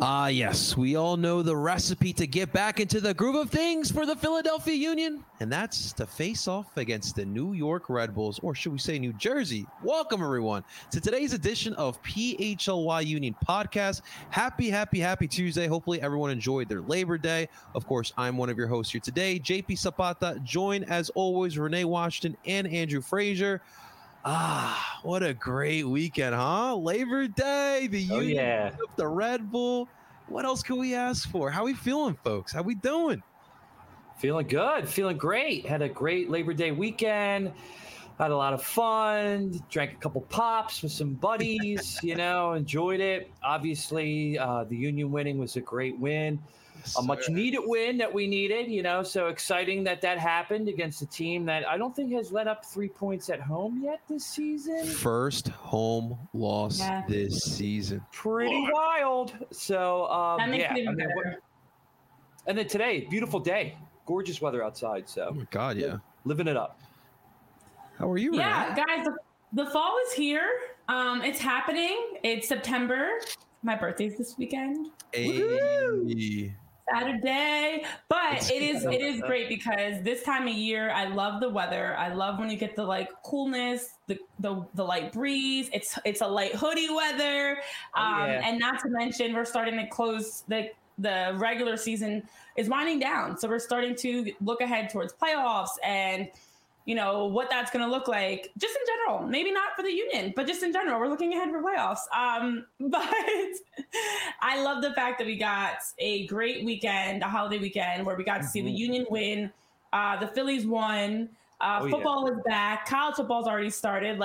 Yes, we all know the recipe to get back into the groove of things for the Philadelphia Union, and that's to face off against the New York Red Bulls, or should we say New Jersey. Welcome, everyone, to today's edition of PHLY Union Podcast. Happy Tuesday. Hopefully, everyone enjoyed their Labor Day. Of course, I'm one of your hosts here today, JP Zapata, joined, as always, Renee Washington and Andrew Frazier. What a great weekend, huh? Labor Day, the Union, the Red Bull. What else can we ask for? How we feeling, folks? How we doing? Feeling good. Feeling great. Had a great Labor Day weekend. Had a lot of fun. Drank a couple pops with some buddies, enjoyed it. Obviously, the Union winning was a great win. A much needed win that we needed, so exciting that happened against a team that I don't think has let up 3 points at home yet this season. First home loss this season. Pretty wild. So, that makes it even better. And then today, beautiful day, gorgeous weather outside. So, oh my God, yeah. Living it up. How are you, Renee? Yeah, guys, the fall is here. It's happening. It's September. My birthday's this weekend. Hey. Saturday, but it is great because this time of year I love the weather. I love when you get the coolness, the light breeze. It's a light hoodie weather, and not to mention we're starting to close the regular season is winding down, so we're starting to look ahead towards playoffs and what that's going to look like just in general, maybe not for the Union, but just in general, we're looking ahead for playoffs. But I love the fact that we got a great weekend, a holiday weekend where we got to see the Union win. The Phillies won. Football is back. College football's already started.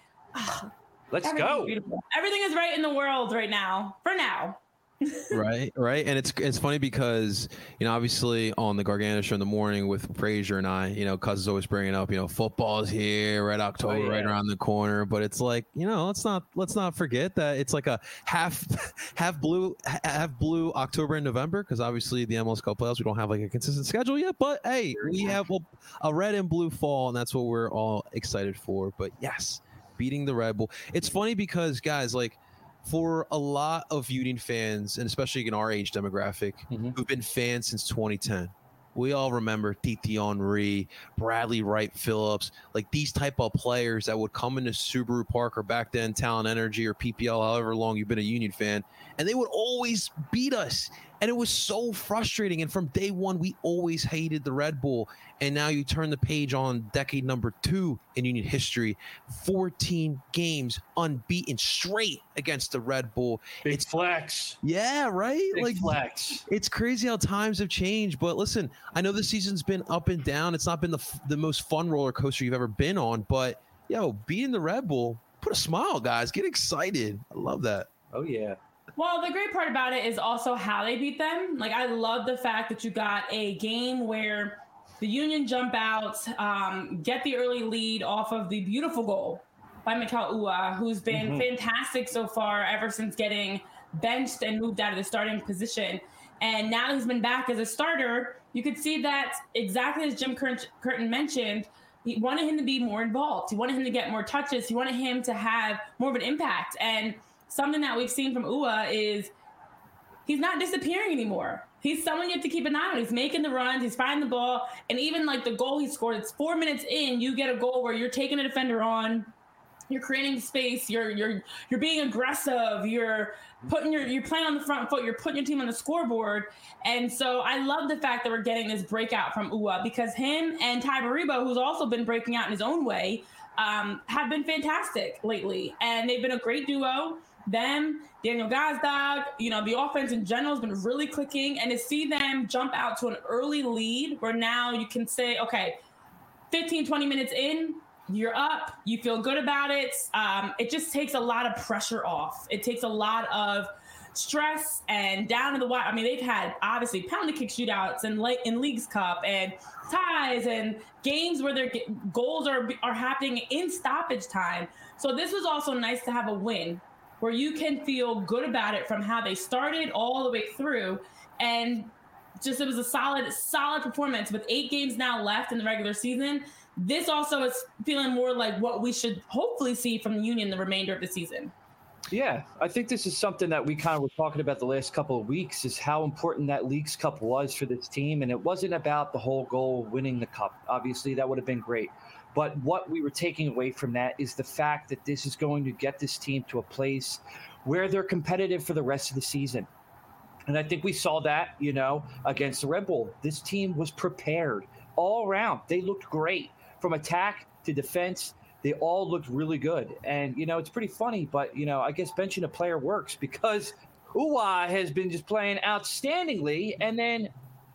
Let's go. Beautiful. Everything is right in the world right now, for now. right and it's funny because obviously on the Gargano show in the morning with Frazier and I, Cuz is always bringing up football's here, Red October right around the corner, but it's let's not forget that it's like a half blue October and November, because obviously the MLS Cup playoffs, we don't have a consistent schedule yet, but hey, we have a red and blue fall, and that's what we're all excited for. But yes, beating the Red Bull. It's funny because guys, for a lot of Union fans, and especially in our age demographic, who've been fans since 2010, we all remember Titi Henry, Bradley Wright Phillips, these type of players that would come into Subaru Park or back then Talent Energy or PPL, however long you've been a Union fan, and they would always beat us. And it was so frustrating. And from day one, we always hated the Red Bull. And now you turn the page on decade number 2 in Union history, 14 games unbeaten straight against the Red Bull. It's flex. Yeah, right? Big flex. It's crazy how times have changed. But listen, I know this season's been up and down. It's not been the most fun roller coaster you've ever been on. But, beating the Red Bull, put a smile, guys. Get excited. I love that. Oh, yeah. Well, the great part about it is also how they beat them. I love the fact that you got a game where the Union jump out, get the early lead off of the beautiful goal by Mikel Uhre, who's been fantastic so far ever since getting benched and moved out of the starting position. And now he's been back as a starter. You could see that exactly as Jim Curtin mentioned, he wanted him to be more involved. He wanted him to get more touches. He wanted him to have more of an impact. And something that we've seen from Uhre is he's not disappearing anymore. He's someone you have to keep an eye on. He's making the runs. He's finding the ball. And even the goal he scored, it's 4 minutes in, you get a goal where you're taking a defender on. You're creating space. You're being aggressive. You're playing on the front foot. You're putting your team on the scoreboard. And so I love the fact that we're getting this breakout from Uhre, because him and Ty Baribo, who's also been breaking out in his own way, have been fantastic lately. And they've been a great duo. Them, Daniel Gazdag, the offense in general has been really clicking, and to see them jump out to an early lead where now you can say, okay, 15, 20 minutes in, you're up, you feel good about it. It just takes a lot of pressure off. It takes a lot of stress and down to the wire. I mean, they've had obviously penalty kick shootouts in Leagues Cup and ties and games where their goals are happening in stoppage time. So this was also nice to have a win where you can feel good about it from how they started all the way through. And just, it was a solid performance with 8 games now left in the regular season. This also is feeling more like what we should hopefully see from the Union the remainder of the season. Yeah, I think this is something that we kind of were talking about the last couple of weeks, is how important that Leagues Cup was for this team. And it wasn't about the whole goal of winning the cup. Obviously, that would have been great. But what we were taking away from that is the fact that this is going to get this team to a place where they're competitive for the rest of the season. And I think we saw that, against the Red Bull. This team was prepared all around. They looked great from attack to defense. They all looked really good. And, it's pretty funny, but, I guess benching a player works because Uwa has been just playing outstandingly. And then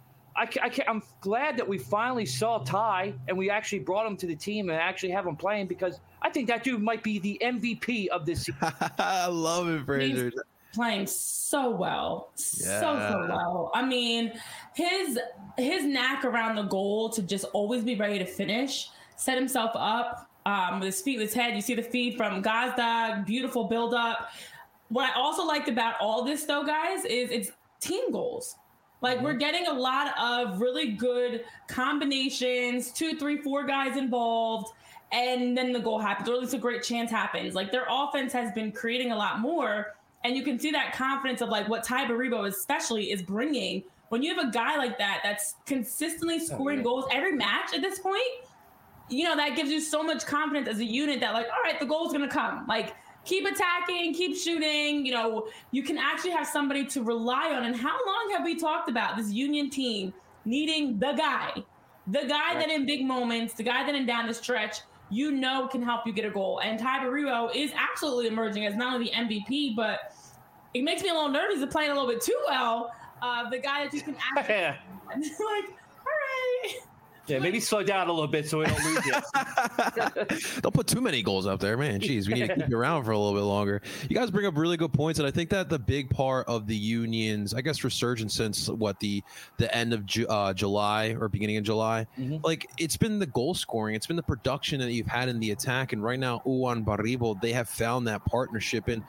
I'm glad that we finally saw Ty and we actually brought him to the team and actually have him playing, because I think that dude might be the MVP of this season. I love it, Fraser. He's playing so well. Yeah. So well. I mean, his knack around the goal to just always be ready to finish, set himself up. With his feet, with his head. You see the feed from Gazdag, beautiful build up. What I also liked about all this, though, guys, is it's team goals. Like, we're getting a lot of really good combinations, 2, 3, 4 guys involved, and then the goal happens, or at least a great chance happens. Like, their offense has been creating a lot more, and you can see that confidence of, like, what Ty Baribo especially is bringing. When you have a guy like that that's consistently scoring goals every match at this point, that gives you so much confidence as a unit that, like, all right, the goal's going to come. Like, keep attacking, keep shooting. You can actually have somebody to rely on. And how long have we talked about this Union team needing the guy that in big moments, the guy that in down the stretch, can help you get a goal. And Ty Baribo is absolutely emerging as not only the MVP, but it makes me a little nervous to playing a little bit too well. The guy that you can actually like, all right. Yeah, maybe slow down a little bit so we don't lose you. Don't put too many goals up there, man. Jeez, we need to keep you around for a little bit longer. You guys bring up really good points, and I think that the big part of the Union's, I guess, resurgence since the end of July or beginning of July, like, it's been the goal scoring, it's been the production that you've had in the attack, and right now, Uwa and Baribo, they have found that partnership. And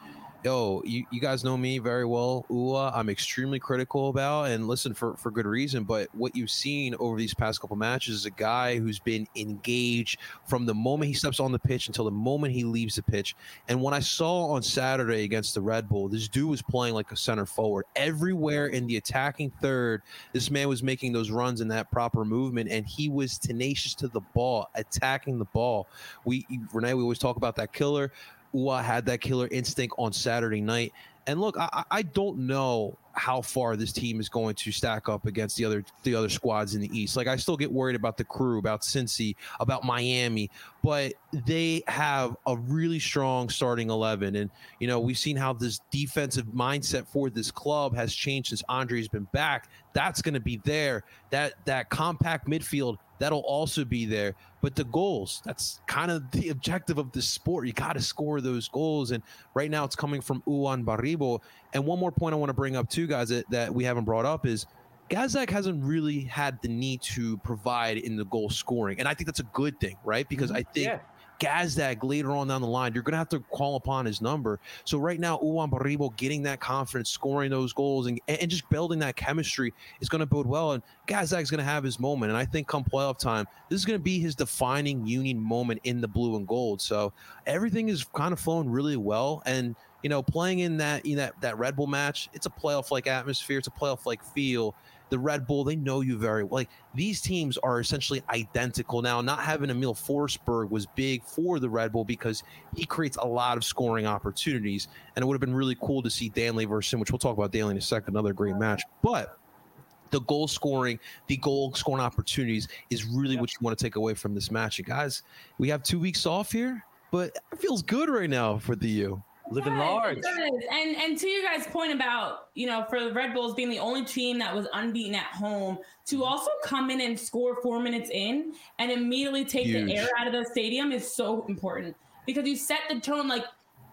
you guys know me very well. Uwa, I'm extremely critical about, and listen, for good reason. But what you've seen over these past couple matches is a guy who's been engaged from the moment he steps on the pitch until the moment he leaves the pitch. And when I saw on Saturday against the Red Bull, this dude was playing like a center forward. Everywhere in the attacking third, this man was making those runs in that proper movement, and he was tenacious to the ball, attacking the ball. Renee, we always talk about that killer. Uwa had that killer instinct on Saturday night. And look, I don't know how far this team is going to stack up against the other squads in the East. Like, I still get worried about the Crew, about Cincy, about Miami, but they have a really strong starting 11. And, we've seen how this defensive mindset for this club has changed since Andre's been back. That's going to be there. That compact midfield, that'll also be there. But the goals, that's kind of the objective of this sport. You got to score those goals. And right now it's coming from Uwa and Baribo. And one more point I want to bring up too, guys, that we haven't brought up is Gazdag hasn't really had the need to provide in the goal scoring. And I think that's a good thing, right? Because I think Gazdag later on down the line, you're going to have to call upon his number. So right now, Uwa and Baribo getting that confidence, scoring those goals, and just building that chemistry is going to bode well. And Gazdag's going to have his moment. And I think come playoff time, this is going to be his defining Union moment in the blue and gold. So everything is kind of flowing really well. And, playing in that Red Bull match, it's a playoff-like atmosphere. It's a playoff-like feel. The Red Bull, they know you very well. Like, these teams are essentially identical now. Not having Emil Forsberg was big for the Red Bull because he creates a lot of scoring opportunities. And it would have been really cool to see Danley versus him, which we'll talk about Danley in a second, another great match. But the goal scoring opportunities is really what you want to take away from this match. And guys, we have 2 weeks off here, but it feels good right now for the U. Living large. And to you guys' point about, for the Red Bulls being the only team that was unbeaten at home, to also come in and score 4 minutes in and immediately take the air out of the stadium is so important, because you set the tone. Like,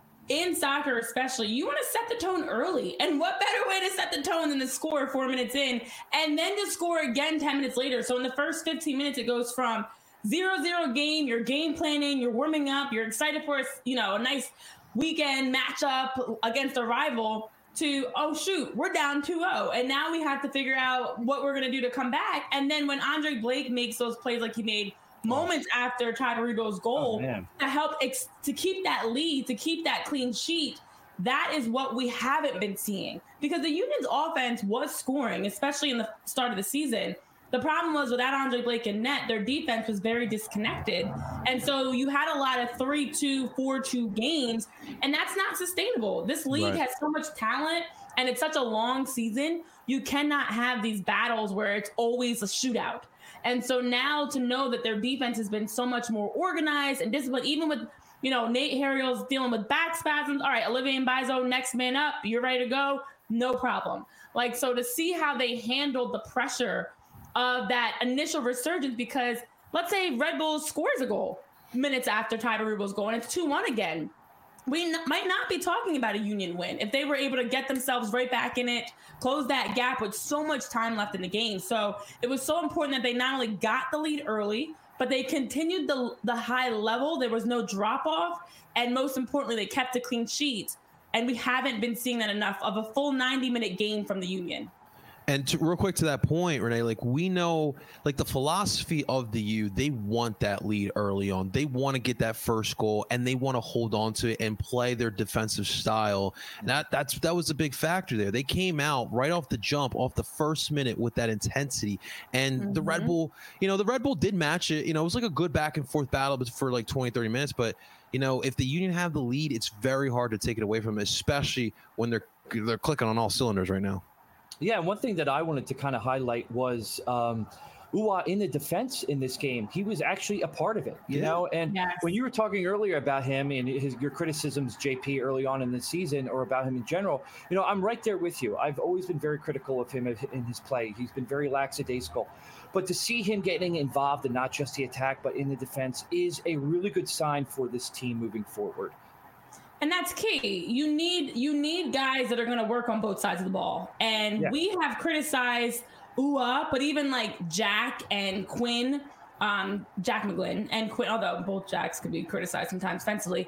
in soccer especially, you want to set the tone early. And what better way to set the tone than to score 4 minutes in and then to score again 10 minutes later? So in the first 15 minutes, it goes from 0-0 game, you're game planning, you're warming up, you're excited for a nice weekend matchup against a rival, to, oh shoot, we're down 2-0, and now we have to figure out what we're going to do to come back. And then when Andre Blake makes those plays like he made moments after Ty Baribo's goal to help to keep that lead, to keep that clean sheet, that is what we haven't been seeing, because the Union's offense was scoring, especially in the start of the season. The problem was without Andre Blake in net, their defense was very disconnected. And so you had a lot of 3-2, 4-2 games, and that's not sustainable. This league has so much talent, and it's such a long season. You cannot have these battles where it's always a shootout. And so now to know that their defense has been so much more organized and disciplined, even with, Nate Harriel's dealing with back spasms. All right, Olivier Mbaizo, next man up. You're ready to go? No problem. So to see how they handled the pressure of that initial resurgence, because let's say Red Bull scores a goal minutes after Ty Rubo's goal, and it's 2-1 again. We might not be talking about a Union win if they were able to get themselves right back in it, close that gap with so much time left in the game. So it was so important that they not only got the lead early, but they continued the high level. There was no drop off. And most importantly, they kept a clean sheet. And we haven't been seeing that enough of a full 90-minute game from the Union. And real quick to that point, Renee, we know, the philosophy of the U, they want that lead early on. They want to get that first goal, and they want to hold on to it and play their defensive style. And that was a big factor there. They came out right off the jump, off the first minute with that intensity. And the Red Bull, the Red Bull did match it. It was a good back and forth battle for 20, 30 minutes. But, if the Union have the lead, it's very hard to take it away from them, especially when they're clicking on all cylinders right now. Yeah, one thing that I wanted to kind of highlight was Uhre in the defense in this game. He was actually a part of it, you know? And when you were talking earlier about him and your criticisms, JP, early on in the season, or about him in general, I'm right there with you. I've always been very critical of him in his play. He's been very lackadaisical. But to see him getting involved in not just the attack, but in the defense is a really good sign for this team moving forward. And that's key. You need guys that are going to work on both sides of the ball. And we have criticized Uhre, but even Jack and Quinn, Jack McGlynn and Quinn, although both Jacks could be criticized sometimes offensively.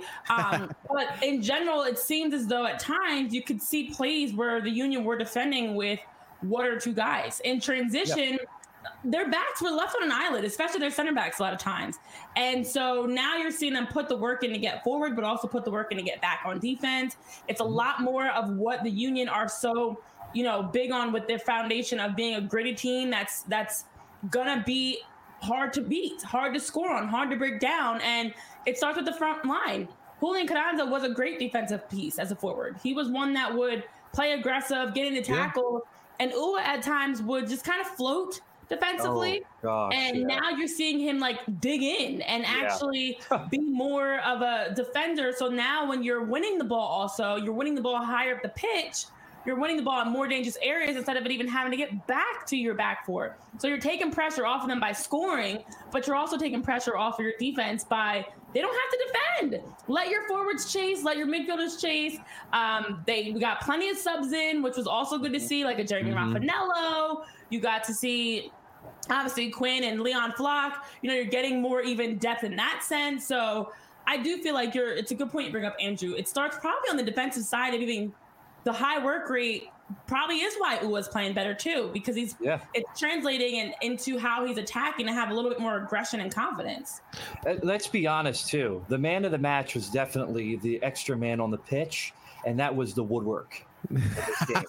But in general, it seems as though at times you could see plays where the Union were defending with one or two guys. In transition, their backs were left on an island, especially their center backs a lot of times. And so now you're seeing them put the work in to get forward, but also put the work in to get back on defense. It's a lot more of what the Union are so, big on with their foundation of being a gritty team that's gonna be hard to beat, hard to score on, hard to break down. And it starts with the front line. Julian Carranza was a great defensive piece as a forward. He was one that would play aggressive, get into tackle, and Uhre at times would just kind of float defensively. Now you're seeing him dig in and actually be more of a defender. So now when you're winning the ball, also you're winning the ball higher up the pitch, you're winning the ball in more dangerous areas instead of it even having to get back to your back four. So you're taking pressure off of them by scoring, but you're also taking pressure off of your defense by they don't have to defend. Let your forwards chase, let your midfielders chase. We got plenty of subs in, which was also good to see, like a Jeremy Raffanello. You got to see obviously Quinn and Leon Flock. You're getting more even depth in that sense. So I do feel like it's a good point you bring up, Andrew. It starts probably on the defensive side of even the high work rate probably is why Uhre's playing better too, because it's translating into how he's attacking to have a little bit more aggression and confidence. Let's be honest too. The man of the match was definitely the extra man on the pitch, and that was the woodwork. There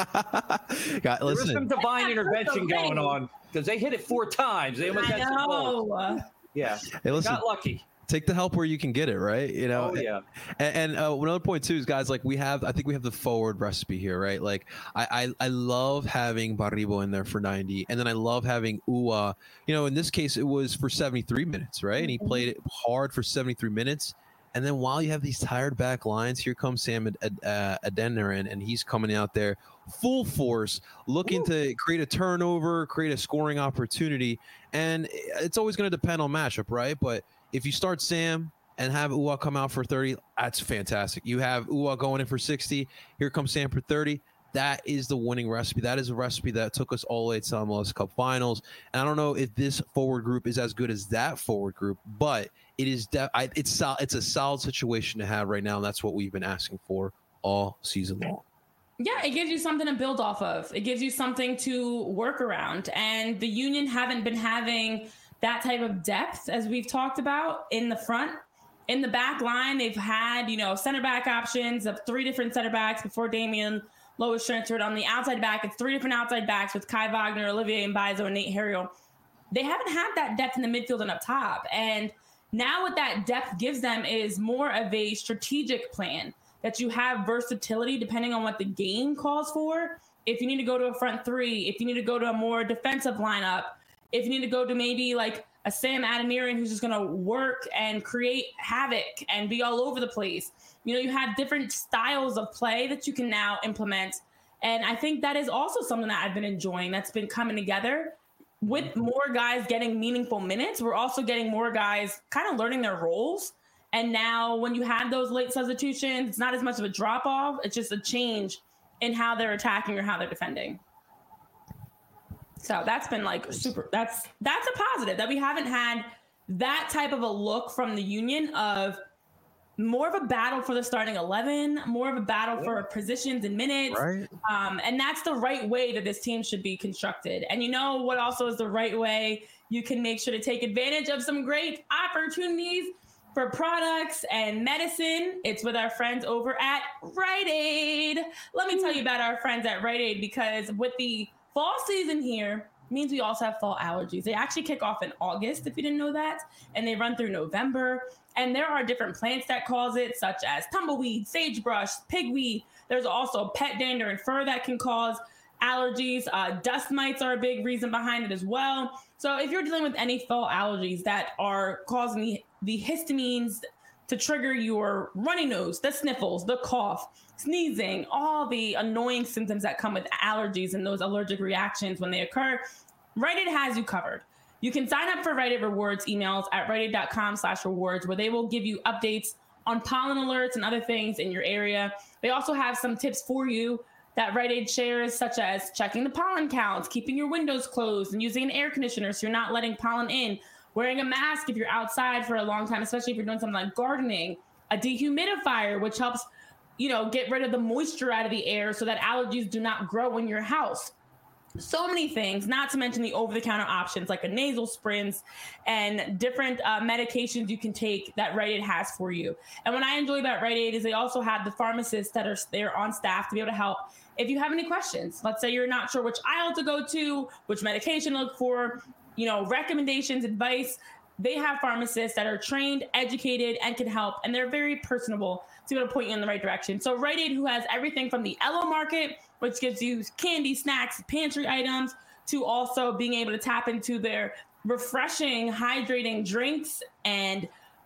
was some divine intervention going on because they hit it 4 times. They almost had some goals. Yeah, hey, listen, got lucky. Take the help where you can get it, right? And another point too is, guys, I think we have the forward recipe here, right? I love having Baribo in there for 90, and then I love having Uhre. In this case, it was for 73 minutes, right? And he played it hard for 73 minutes. And then while you have these tired back lines, here comes Sam Adeniran, and he's coming out there full force, looking to create a turnover, create a scoring opportunity. And it's always going to depend on matchup, right? But if you start Sam and have Uhre come out for 30, that's fantastic. You have Uhre going in for 60. Here comes Sam for 30. That is the winning recipe. That is a recipe that took us all the way to the MLS Cup Finals. And I don't know if this forward group is as good as that forward group, but it is it's a solid situation to have right now, and that's what we've been asking for all season long. Yeah, it gives you something to build off of. It gives you something to work around. And the Union haven't been having that type of depth, as we've talked about, in the front. In the back line, they've had, center back options of 3 different center backs before Damian Lowe was transferred. On the outside back, it's 3 different outside backs with Kai Wagner, Olivier Mbaizo, and Nate Harriel. They haven't had that depth in the midfield and up top. And now what that depth gives them is more of a strategic plan, that you have versatility depending on what the game calls for. If you need to go to a front 3, if you need to go to a more defensive lineup, if you need to go to maybe like a Sam Adeniran who's just going to work and create havoc and be all over the place. You have different styles of play that you can now implement. And I think that is also something that I've been enjoying that's been coming together. With more guys getting meaningful minutes, we're also getting more guys kind of learning their roles. And now when you have those late substitutions, it's not as much of a drop off. It's just a change in how they're attacking or how they're defending. So that's been like super, that's a positive that we haven't had that type of a look from the Union of more of a battle for the starting 11, more of a battle for positions and minutes. Right. And that's the right way that this team should be constructed. And you know what also is the right way? You can make sure to take advantage of some great opportunities for products and medicine. It's with our friends over at Rite Aid. Let me tell you about our friends at Rite Aid, because with the fall season here means we also have fall allergies. They actually kick off in August, if you didn't know that, and they run through November. And there are different plants that cause it, such as tumbleweed, sagebrush, pigweed. There's also pet dander and fur that can cause allergies. Dust mites are a big reason behind it as well. So if you're dealing with any fall allergies that are causing the histamines to trigger your runny nose, the sniffles, the cough, sneezing, all the annoying symptoms that come with allergies and those allergic reactions when they occur, Rite Aid has you covered. You can sign up for Rite Aid Rewards emails at riteaid.com/rewards, where they will give you updates on pollen alerts and other things in your area. They also have some tips for you that Rite Aid shares, such as checking the pollen counts, keeping your windows closed, and using an air conditioner so you're not letting pollen in, wearing a mask if you're outside for a long time, especially if you're doing something like gardening, a dehumidifier, which helps, get rid of the moisture out of the air so that allergies do not grow in your house. So many things, not to mention the over-the-counter options like a nasal sprints and different medications you can take that Rite Aid has for you. And what I enjoy about Rite Aid is they also have the pharmacists that are there on staff to be able to help if you have any questions. Let's say you're not sure which aisle to go to, which medication to look for, recommendations, advice. They have pharmacists that are trained, educated, and can help, and they're very personable to be able to point you in the right direction. So Rite Aid, who has everything from the Elo Market, which gives you candy, snacks, pantry items, to also being able to tap into their refreshing, hydrating drinks and,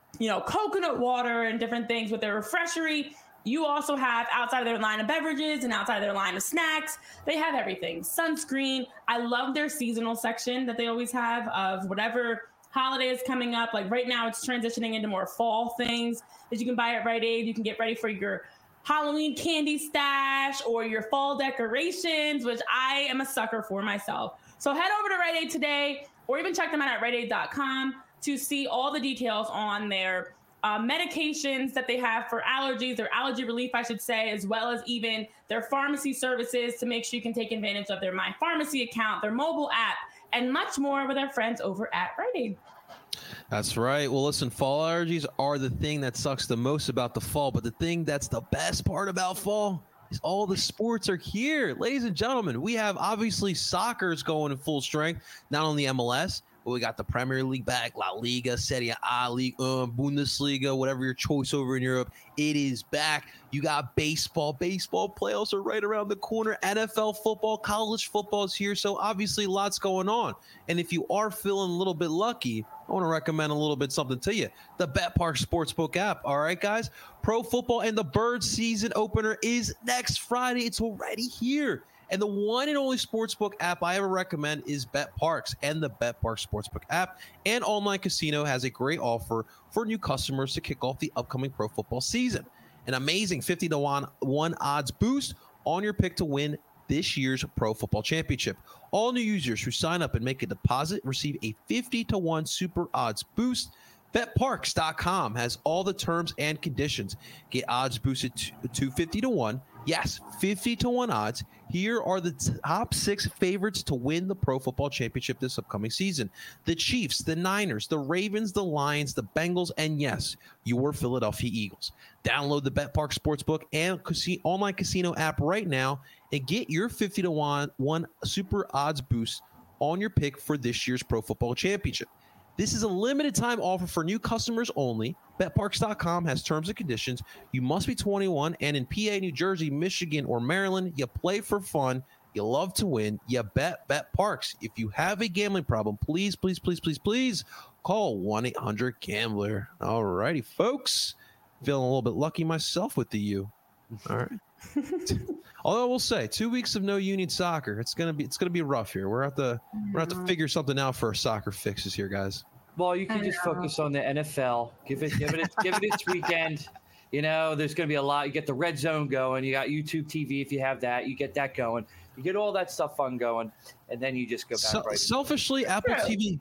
coconut water and different things with their refreshery. You also have, outside of their line of beverages and outside of their line of snacks, they have everything. Sunscreen. I love their seasonal section that they always have of whatever holiday is coming up. Like right now, it's transitioning into more fall things that you can buy at Rite Aid. You can get ready for your Halloween candy stash or your fall decorations, which I am a sucker for myself. So head over to Rite Aid today, or even check them out at riteaid.com to see all the details on their medications that they have for allergies, their allergy relief, I should say, as well as even their pharmacy services to make sure you can take advantage of their My Pharmacy account, their mobile app, and much more with our friends over at Rite Aid. That's right. Well, listen, fall allergies are the thing that sucks the most about the fall, but the thing that's the best part about fall is all the sports are here. Ladies and gentlemen, we have obviously soccer's going in full strength, not only MLS, but we got the Premier League back, La Liga, Serie A, Ligue 1, Bundesliga, whatever your choice over in Europe, it is back. You got baseball. Baseball playoffs are right around the corner. NFL football, college football is here. So obviously lots going on. And if you are feeling a little bit lucky, I want to recommend a little bit something to you. The BetParx Sportsbook app. All right, guys. Pro football and the Birds season opener is next Friday. It's already here. And the one and only sportsbook app I ever recommend is BetParx, and the BetParx Sportsbook app and online casino has a great offer for new customers to kick off the upcoming pro football season. An amazing 50-to-1 odds boost on your pick to win this year's Pro Football Championship. All new users who sign up and make a deposit receive a 50-to-1 super odds boost. BetParx.com has all the terms and conditions. Get odds boosted to 50-to-1 Yes, 50 to 1 odds. Here are the top 6 favorites to win the Pro Football Championship this upcoming season. The Chiefs, the Niners, the Ravens, the Lions, the Bengals, and yes, your Philadelphia Eagles. Download the BetPark Sportsbook and online casino app right now and get your 50 to 1 super odds boost on your pick for this year's Pro Football Championship. This is a limited time offer for new customers only. BetParks.com has terms and conditions. You must be 21 and in PA, New Jersey, Michigan, or Maryland. You play for fun. You love to win. You bet BetParks. If you have a gambling problem, please call 1-800-GAMBLER. All righty, folks. Feeling a little bit lucky myself with the U. All right. Although I will say, 2 weeks of no union soccer, it's gonna be rough here. We're have to figure something out for our soccer fixes here, guys. Well, you can just focus on the NFL. Give it its weekend. You know, there's going to be a lot. You get the red zone going. You got YouTube TV if you have that. You get that going. You get all that stuff fun going, and then you just go back. Selfishly, Apple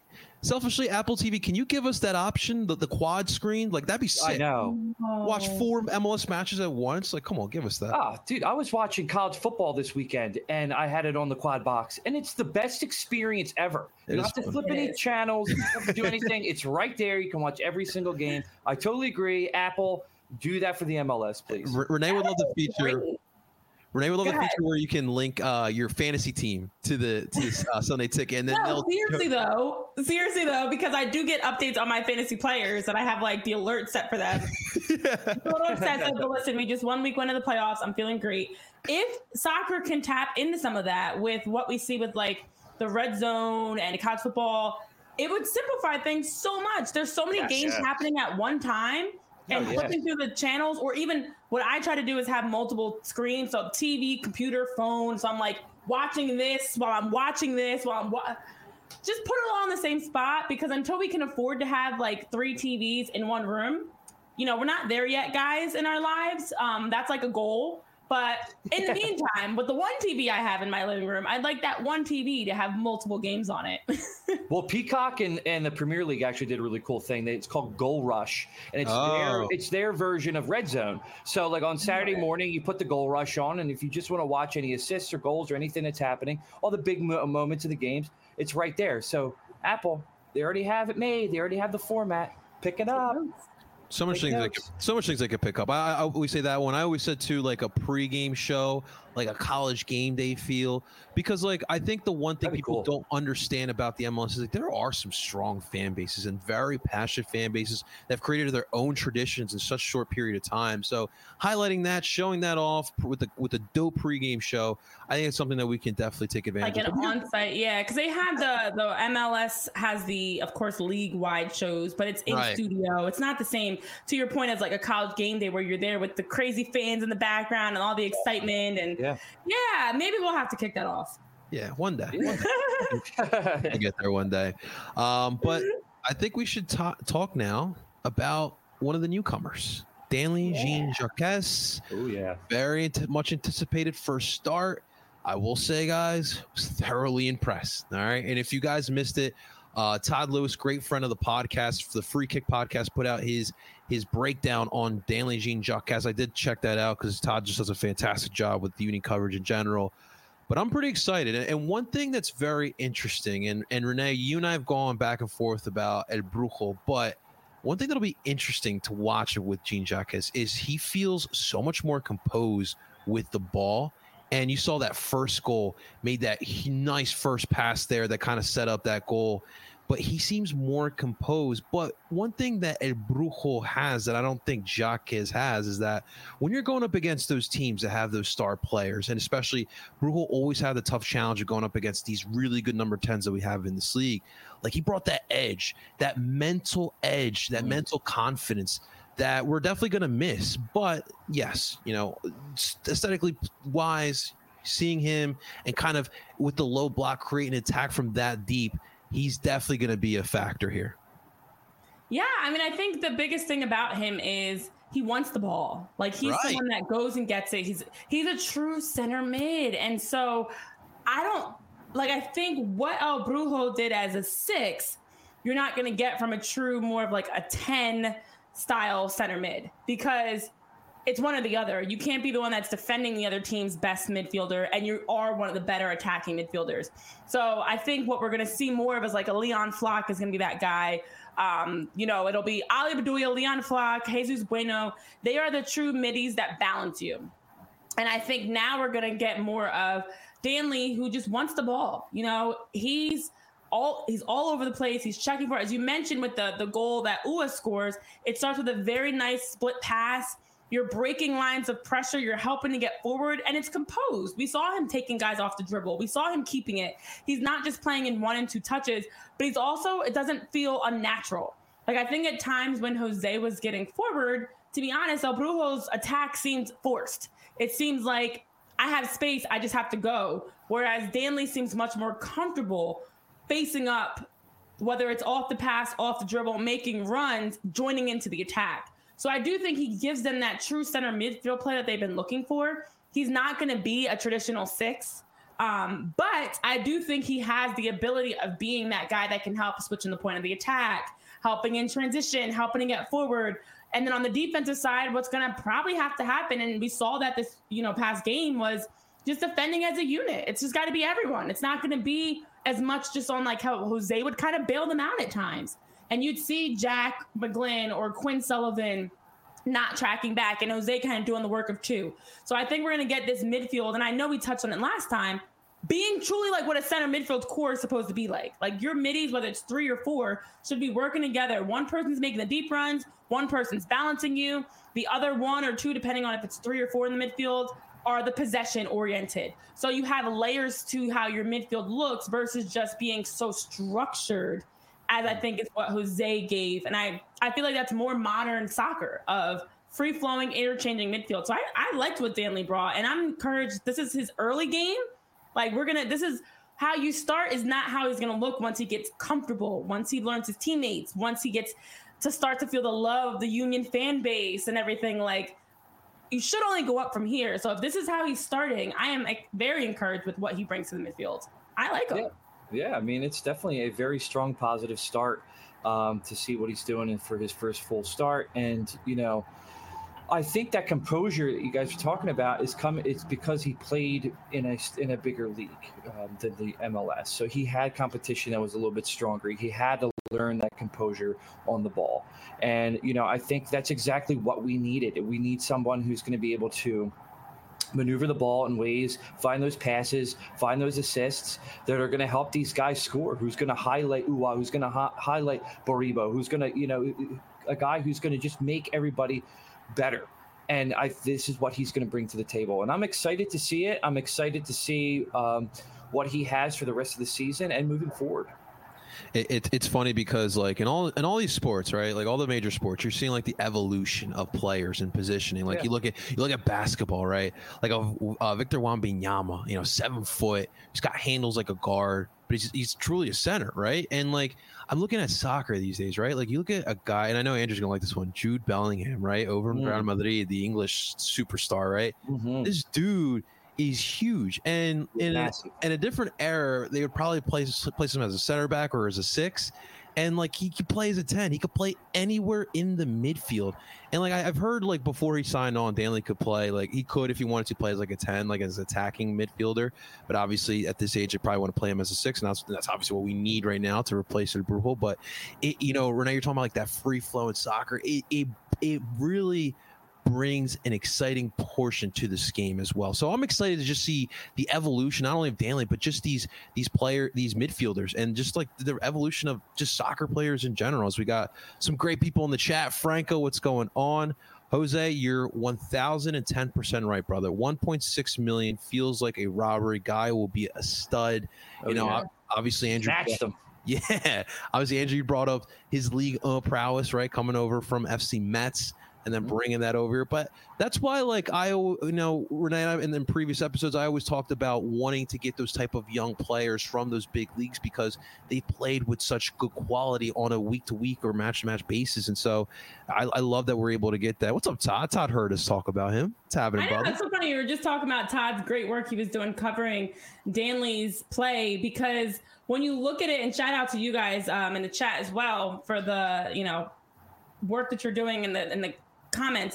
TV. Can you give us that option, the quad screen? Like that'd be sick. I know. Watch 4 MLS matches at once. Like, come on, give us that. Oh, dude, I was watching college football this weekend, and I had it on the quad box, and it's the best experience ever. You don't have to flip any channels. You don't have to do anything. It's right there. You can watch every single game. I totally agree. Apple, do that for the MLS, please. Renee would love the feature. Renee would love the feature where you can link your fantasy team to the Sunday ticket, and then seriously though, because I do get updates on my fantasy players, and I have like the alert set for them. Total obsessive, but listen, we just 1 week went into the playoffs. I'm feeling great. If soccer can tap into some of that with what we see with like the red zone and college football, it would simplify things so much. There's so many games happening at one time. And flipping through the channels, or even what I try to do is have multiple screens, so TV, computer, phone. So I'm like watching this while I'm watching this just put it all in the same spot, because until we can afford to have like 3 TVs in one room, you know, we're not there yet, guys, in our lives. That's like a goal. But in the meantime, with the one TV I have in my living room, I'd like that one TV to have multiple games on it. Well, Peacock and the Premier League actually did a really cool thing. It's called Goal Rush, and it's their version of Red Zone. So like on Saturday morning, you put the Goal Rush on, and if you just want to watch any assists or goals or anything that's happening, all the big moments of the games, it's right there. So Apple, they already have it made. They already have the format. Pick it up. So much things I could pick up. I always say that one. I always said too, like a pregame show, like a college game day feel, because like I think the one thing people don't understand about the MLS is like there are some strong fan bases and very passionate fan bases that have created their own traditions in such a short period of time. So highlighting that, showing that off with a dope pregame show, I think it's something that we can definitely take advantage of. Like an on-site, because they have the MLS has the, of course, league-wide shows, but it's in studio. It's not the same, to your point, as like a college game day where you're there with the crazy fans in the background and all the excitement. And maybe we'll have to kick that off. Yeah, one day. I'll get there one day. But I think we should talk now about one of the newcomers, Danley Jean-Jacques. Oh, yeah. Very much anticipated first start. I will say, guys, was thoroughly impressed. All right. And if you guys missed it, Todd Lewis, great friend of the podcast, the Free Kick podcast, put out his breakdown on Danley Jean-Jacques. I did check that out because Todd just does a fantastic job with the uni coverage in general. But I'm pretty excited. And one thing that's very interesting, and Renee, you and I have gone back and forth about El Brujo, but one thing that'll be interesting to watch with Jean-Jacques is he feels so much more composed with the ball. And you saw that first goal, made that nice first pass there that kind of set up that goal. But he seems more composed. But one thing that El Brujo has that I don't think Jacques has is that when you're going up against those teams that have those star players, and especially Brujo always had the tough challenge of going up against these really good number 10s that we have in this league. Like he brought that edge, that mental confidence that we're definitely going to miss. But yes, you know, aesthetically wise, seeing him and kind of with the low block create an attack from that deep, he's definitely going to be a factor here. Yeah, I mean, I think the biggest thing about him is he wants the ball. Like he's someone that goes and gets it. He's a true center mid. And so I think what El Brujo did as a 6, you're not going to get from a true more of like a 10 style center mid, because it's one or the other. You can't be the one that's defending the other team's best midfielder, and you are one of the better attacking midfielders. So I think what we're going to see more of is like a Leon Flock is going to be that guy. It'll be Ali Bedoya, Leon Flock, Jesus Bueno. They are the true middies that balance you. And I think now we're going to get more of Danley, who just wants the ball. He's all over the place. He's checking for it. As you mentioned with the goal that Ua scores, it starts with a very nice split pass. You're breaking lines of pressure. You're helping to get forward, and it's composed. We saw him taking guys off the dribble. We saw him keeping it. He's not just playing in 1 and 2 touches, but he's also, it doesn't feel unnatural. Like, I think at times when Jose was getting forward, to be honest, El Brujo's attack seems forced. It seems like I have space, I just have to go. Whereas Danley seems much more comfortable facing up, whether it's off the pass, off the dribble, making runs, joining into the attack. So I do think he gives them that true center midfield play that they've been looking for. He's not going to be a traditional 6, but I do think he has the ability of being that guy that can help switch in the point of the attack, helping in transition, helping to get forward. And then on the defensive side, what's going to probably have to happen, and we saw that this past game, was just defending as a unit. It's just got to be everyone. It's not going to be as much just on like how Jose would kind of bail them out at times. And you'd see Jack McGlynn or Quinn Sullivan not tracking back, and Jose kind of doing the work of 2. So I think we're going to get this midfield, and I know we touched on it last time, being truly like what a center midfield core is supposed to be like. Like your middies, whether it's 3 or 4, should be working together. One person's making the deep runs, one person's balancing you, the other 1 or 2, depending on if it's 3 or 4 in the midfield, are the possession oriented. So you have layers to how your midfield looks versus just being so structured, as I think is what Jose gave. And I feel like that's more modern soccer of free-flowing, interchanging midfield. So I liked what Danley brought, and I'm encouraged. This is his early game. Like, this is how you start, is not how he's going to look once he gets comfortable, once he learns his teammates, once he gets to start to feel the love of the Union fan base and everything. Like, you should only go up from here. So if this is how he's starting, I am very encouraged with what he brings to the midfield. I like him. Yeah, I mean, it's definitely a very strong positive start to see what he's doing for his first full start. And, I think that composure that you guys are talking about it's because he played in a bigger league than the MLS. So he had competition that was a little bit stronger. He had to learn that composure on the ball. And, I think that's exactly what we needed. We need someone who's going to be able to maneuver the ball in ways, find those passes, find those assists that are going to help these guys score, who's going to highlight Ua, who's going to highlight Baribo, who's going to, a guy who's going to just make everybody better. And this is what he's going to bring to the table. And I'm excited to see it. I'm excited to see what he has for the rest of the season and moving forward. It's funny because like in all these sports, right? Like all the major sports, you're seeing like the evolution of players and positioning. Like you look at basketball, right? Like Victor Wembanyama, 7 foot, he's got handles like a guard, but he's truly a center, right? And like I'm looking at soccer these days, right? Like you look at a guy, and I know Andrew's gonna like this one, Jude Bellingham, right? Over in Real Madrid, the English superstar, right? Mm-hmm. This dude is huge, and in a different era, they would probably place him as a center back or as a 6, and like he could play as a 10. He could play anywhere in the midfield, and like I've heard like before he signed on, Danley could play like he could if he wanted to play as like a 10, like as attacking midfielder. But obviously at this age, they probably want to play him as a 6, and that's obviously what we need right now to replace El Brujo. But Renee, you're talking about like that free flow in soccer. It really brings an exciting portion to this game as well. So I'm excited to just see the evolution, not only of Danley, but just these midfielders, and just like the evolution of just soccer players in general. As we got some great people in the chat. Franco, what's going on? Jose, you're 1,010% right, brother. 1.6 million feels like a robbery. Guy will be a stud. Obviously Andrew matched him. Yeah, obviously Andrew, you brought up his league prowess, right? Coming over from FC Metz and then bringing that over here. But that's why, like, Renee, and in previous episodes, I always talked about wanting to get those type of young players from those big leagues because they played with such good quality on a week-to-week or match-to-match basis. And so I love that we're able to get that. What's up, Todd? Todd heard us talk about him. What's happening, brother? It's so funny. You were just talking about Todd's great work he was doing covering Danley's play, because when you look at it, and shout out to you guys in the chat as well for the, work that you're doing in the comments.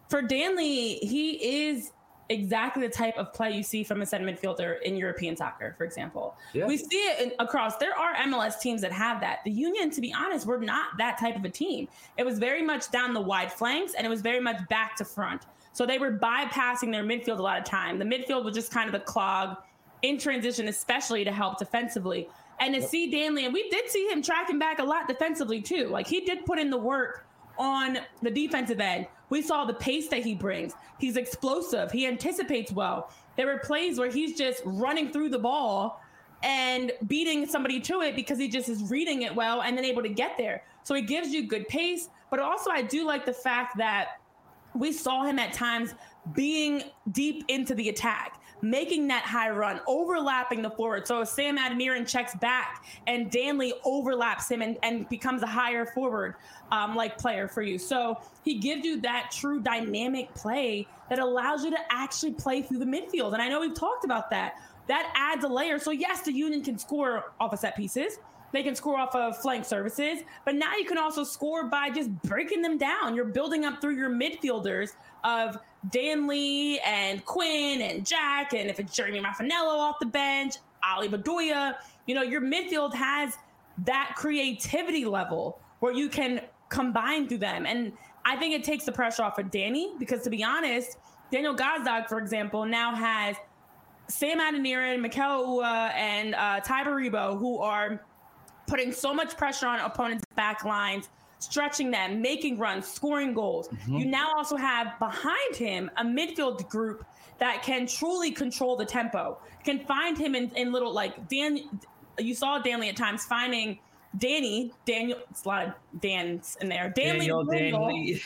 for Danley, he is exactly the type of play you see from a center midfielder in European soccer, for example. Yeah. We see it across. There are MLS teams that have that. The Union, to be honest, were not that type of a team. It was very much down the wide flanks, and it was very much back to front. So they were bypassing their midfield a lot of time. The midfield was just kind of the clog in transition, especially to help defensively. And to see Danley, and we did see him tracking back a lot defensively too. Like, he did put in the work on the defensive end. We saw the pace that he brings. He's explosive. He anticipates well. There were plays where he's just running through the ball and beating somebody to it because he just is reading it well and then able to get there. So he gives you good pace. But also, I do like the fact that we saw him at times being deep into the attack, making that high run, overlapping the forward. So Sam Adeniran checks back and Danley overlaps him and becomes a higher forward like player for you. So he gives you that true dynamic play that allows you to actually play through the midfield. And I know we've talked about that. That adds a layer. So yes, the Union can score off of set pieces. They can score off of flank services, but now you can also score by just breaking them down. You're building up through your midfielders of Danley and Quinn and Jack, and if it's Jeremy Raffanello off the bench, Ali Bedoya, your midfield has that creativity level where you can combine through them. And I think it takes the pressure off of Danny because, to be honest, Daniel Gazdag, for example, now has Sam Adeniran, Mikel Ua, and Ty Baribo, who are putting so much pressure on opponents' back lines, stretching them, making runs, scoring goals. Mm-hmm. You now also have behind him a midfield group that can truly control the tempo, can find him in little, like Dan. You saw Danley at times finding Daniel, it's a lot of Dans in there. Danley to Daniel,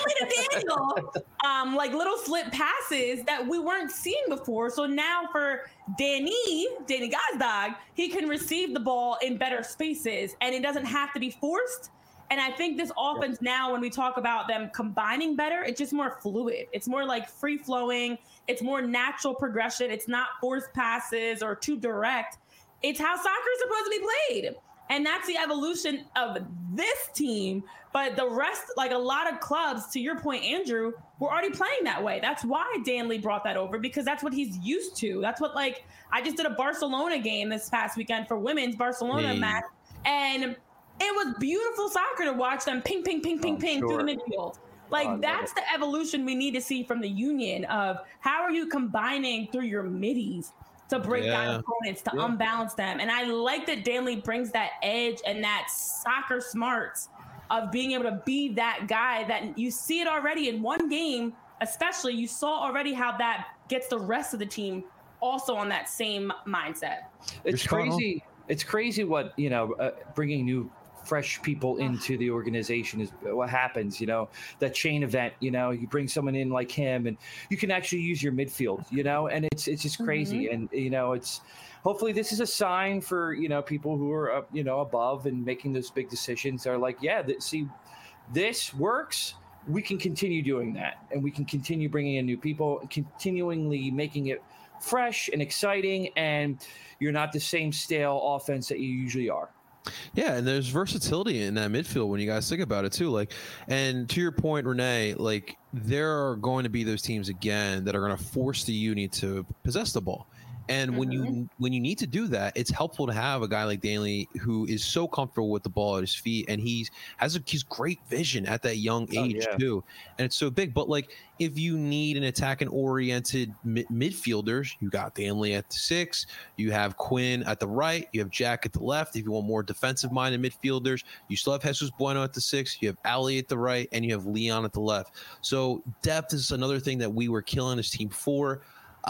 like little slip passes that we weren't seeing before. So now for Danny Gazdag, he can receive the ball in better spaces and it doesn't have to be forced. And I think this offense now, when we talk about them combining better, it's just more fluid. It's more like free flowing. It's more natural progression. It's not forced passes or too direct. It's how soccer is supposed to be played. And that's the evolution of this team. But the rest, like a lot of clubs, to your point, Andrew, were already playing that way. That's why Danley brought that over, because that's what he's used to. That's what, like, I just did a Barcelona game this past weekend for women's Barcelona match. And it was beautiful soccer to watch them ping, ping, ping, ping, ping through the midfield. Like, that's the evolution we need to see from the Union of how are you combining through your middies to break down opponents, to unbalance them. And I like that Danley brings that edge and that soccer smarts of being able to be that guy that you see it already in one game, especially you saw already how that gets the rest of the team also on that same mindset. It's crazy. It's crazy what, bringing new fresh people into the organization is what happens, that chain event, you bring someone in like him and you can actually use your midfield, and it's just crazy. Mm-hmm. And, it's hopefully this is a sign for, people who are, above and making those big decisions are like, see, this works. We can continue doing that and we can continue bringing in new people, continually making it fresh and exciting. And you're not the same stale offense that you usually are. Yeah, and there's versatility in that midfield when you guys think about it too. Like, and to your point, Renee, like there are going to be those teams again that are going to force the Uni to possess the ball. And when you need to do that, it's helpful to have a guy like Danley who is so comfortable with the ball at his feet, and he's great vision at that young age too, and it's so big. But like, if you need an attacking oriented midfielders, you got Danley at the 6, you have Quinn at the right, you have Jack at the left. If you want more defensive minded midfielders, you still have Jesus Bueno at the 6, you have Ali at the right, and you have Leon at the left. So depth is another thing that we were killing this team for.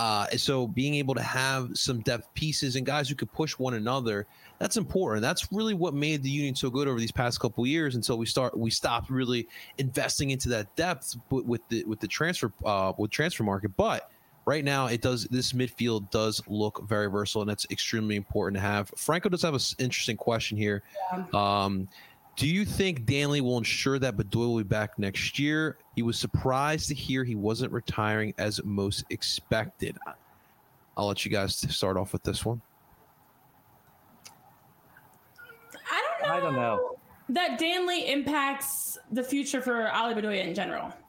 So being able to have some depth pieces and guys who could push one another, that's important. That's really what made the Union so good over these past couple of years until we stopped really investing into that depth with the transfer market. But right now this midfield does look very versatile, and that's extremely important to have. Franco does have an interesting question here. Do you think Danley will ensure that Bedoya will be back next year? He was surprised to hear he wasn't retiring as most expected. I'll let you guys start off with this one. I don't know that Danley impacts the future for Ali Bedoya in general.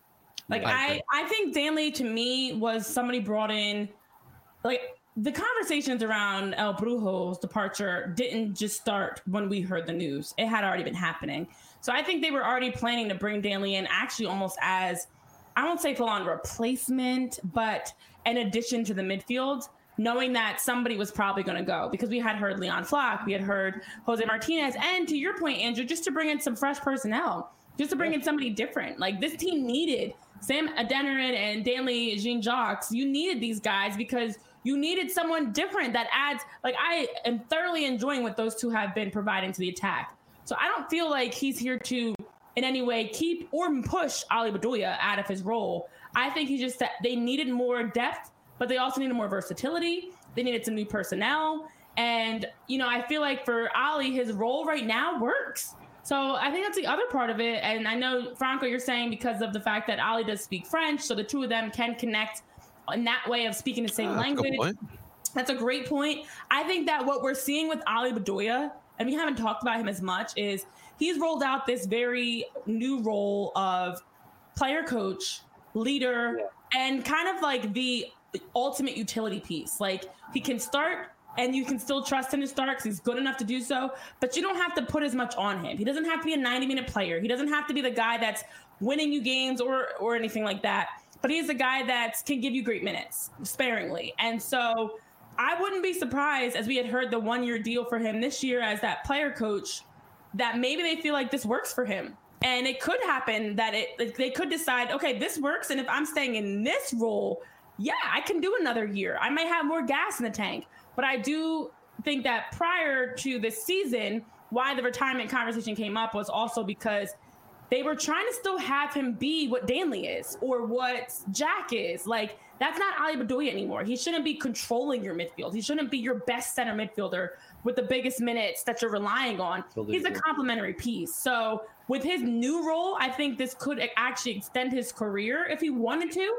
Like I think Danley to me was somebody brought in, like the conversations around El Brujo's departure didn't just start when we heard the news. It had already been happening. So I think they were already planning to bring Danley in actually almost as, I won't say full on replacement, but an addition to the midfield, knowing that somebody was probably going to go, because we had heard Leon Flock, we had heard Jose Martinez, and to your point, Andrew, just to bring in some fresh personnel, just to bring in somebody different. Like this team needed Sam Adeniran and Danley Jean-Jacques. You needed these guys because you needed someone different that adds, like I am thoroughly enjoying what those two have been providing to the attack. So I don't feel like he's here to in any way keep or push Ali Bedoya out of his role. I think he's just that they needed more depth, but they also needed more versatility. They needed some new personnel. And, you know, I feel like for Ali, his role right now works. So I think that's the other part of it. And I know, Franco, you're saying because of the fact that Ali does speak French, so the two of them can connect in that way of speaking the same language. That's a great point. I think that what we're seeing with Ali Bedoya, and we haven't talked about him as much, is he's rolled out this very new role of player coach, leader, and kind of like the ultimate utility piece. Like he can start and you can still trust him to start because he's good enough to do so, but you don't have to put as much on him. He doesn't have to be a 90-minute player. He doesn't have to be the guy that's winning you games or anything like that. But he's a guy that can give you great minutes sparingly. And so I wouldn't be surprised, as we had heard the 1-year deal for him this year as that player coach, that maybe they feel like this works for him. And it could happen that they could decide, okay, this works. And if I'm staying in this role, yeah, I can do another year. I might have more gas in the tank. But I do think that prior to this season, why the retirement conversation came up was also because they were trying to still have him be what Danley is or what Jack is. Like, that's not Ali Bedoya anymore. He shouldn't be controlling your midfield. He shouldn't be your best center midfielder with the biggest minutes that you're relying on. He's a complementary piece. So with his new role, I think this could actually extend his career if he wanted to.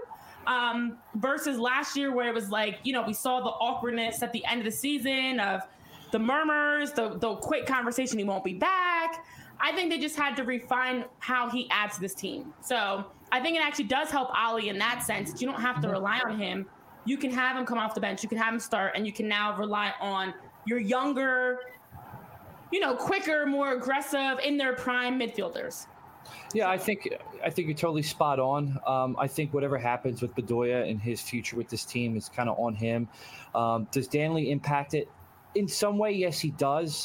Versus last year where it was like, you know, we saw the awkwardness at the end of the season of the murmurs, the quick conversation, he won't be back. I think they just had to refine how he adds to this team. So I think it actually does help Ali in that sense. You don't have to rely on him. You can have him come off the bench. You can have him start, and you can now rely on your younger, you know, quicker, more aggressive, in their prime midfielders. Yeah, I think you're totally spot on. I think whatever happens with Bedoya and his future with this team is kind of on him. Does Danley impact it? In some way, yes, he does.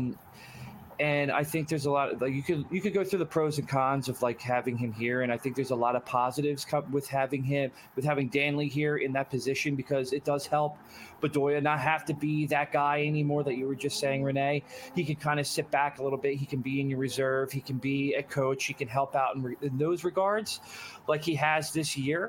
And I think there's a lot of, like, you could go through the pros and cons of like having him here, and I think there's a lot of positives with having Danley here in that position, because it does help Bedoya not have to be that guy anymore that you were just saying, Renee. He can kind of sit back a little bit. He can be in your reserve. He can be a coach. He can help out in those regards, like he has this year.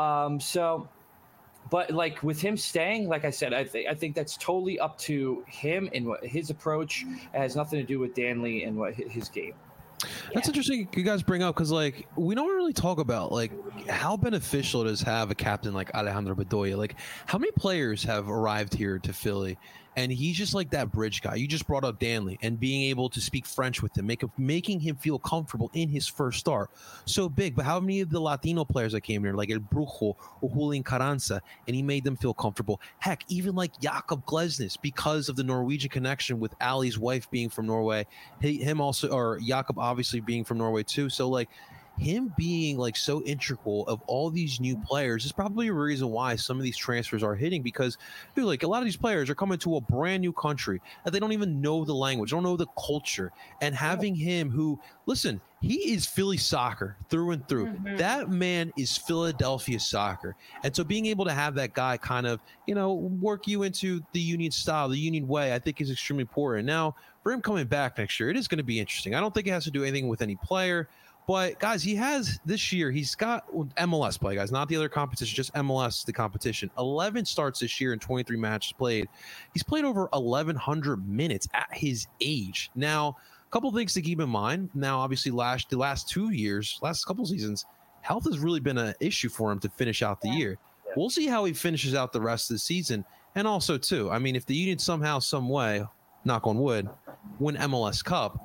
But like with him staying, like I said, I think that's totally up to him and what his approach. It has nothing to do with Danley and what his game. That's interesting you guys bring up, because like we don't really talk about like how beneficial it is to have a captain like Alejandro Bedoya. Like how many players have arrived here to Philly and he's just like that bridge guy. You just brought up Danley, and being able to speak French with him, making him feel comfortable in his first start. So big. But how many of the Latino players that came here, like El Brujo or Julian Carranza, and he made them feel comfortable? Heck, even like Jakob Glesnes, because of the Norwegian connection with Ali's wife being from Norway, him also, or Jakob obviously being from Norway too. So like him being like so integral of all these new players is probably a reason why some of these transfers are hitting, because dude, like a lot of these players are coming to a brand new country and they don't even know the language, don't know the culture, and having him, who, listen, he is Philly soccer through and through. That man is Philadelphia soccer. And so being able to have that guy kind of, you know, work you into the Union style, the Union way, I think is extremely important. Now, for him coming back next year, it is going to be interesting. I don't think it has to do anything with any player. But, guys, he has this year, he's got MLS play, guys, not the other competition, just MLS, the competition. 11 starts this year and 23 matches played. He's played over 1,100 minutes at his age. Now, a couple things to keep in mind. Now, obviously, the last 2 years, last couple seasons, health has really been an issue for him to finish out the year. We'll see how he finishes out the rest of the season. And also, too, I mean, if the Union somehow, some way, knock on wood, win MLS Cup,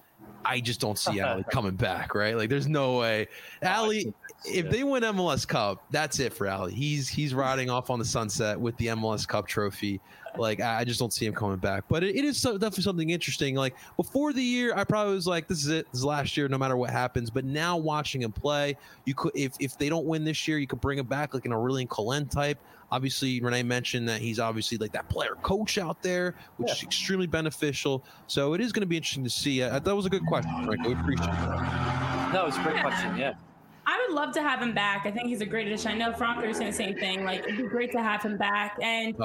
I just don't see Allie coming back, right? Like, there's no way. Allie, if they win MLS Cup, that's it for Allie. He's riding off on the sunset with the MLS Cup trophy. Like, I just don't see him coming back. But it is definitely something interesting. Like, before the year, I probably was like, this is it. This is last year, no matter what happens. But now watching him play, you could, if they don't win this year, you could bring him back like an Aurelien Collin type. Obviously, Renee mentioned that he's obviously like that player coach out there, which is extremely beneficial. So it is going to be interesting to see. That was a good question, Frank. We appreciate that. No, it's a great question. Yeah. I would love to have him back. I think he's a great addition. I know Franco is saying the same thing. Like, it'd be great to have him back. And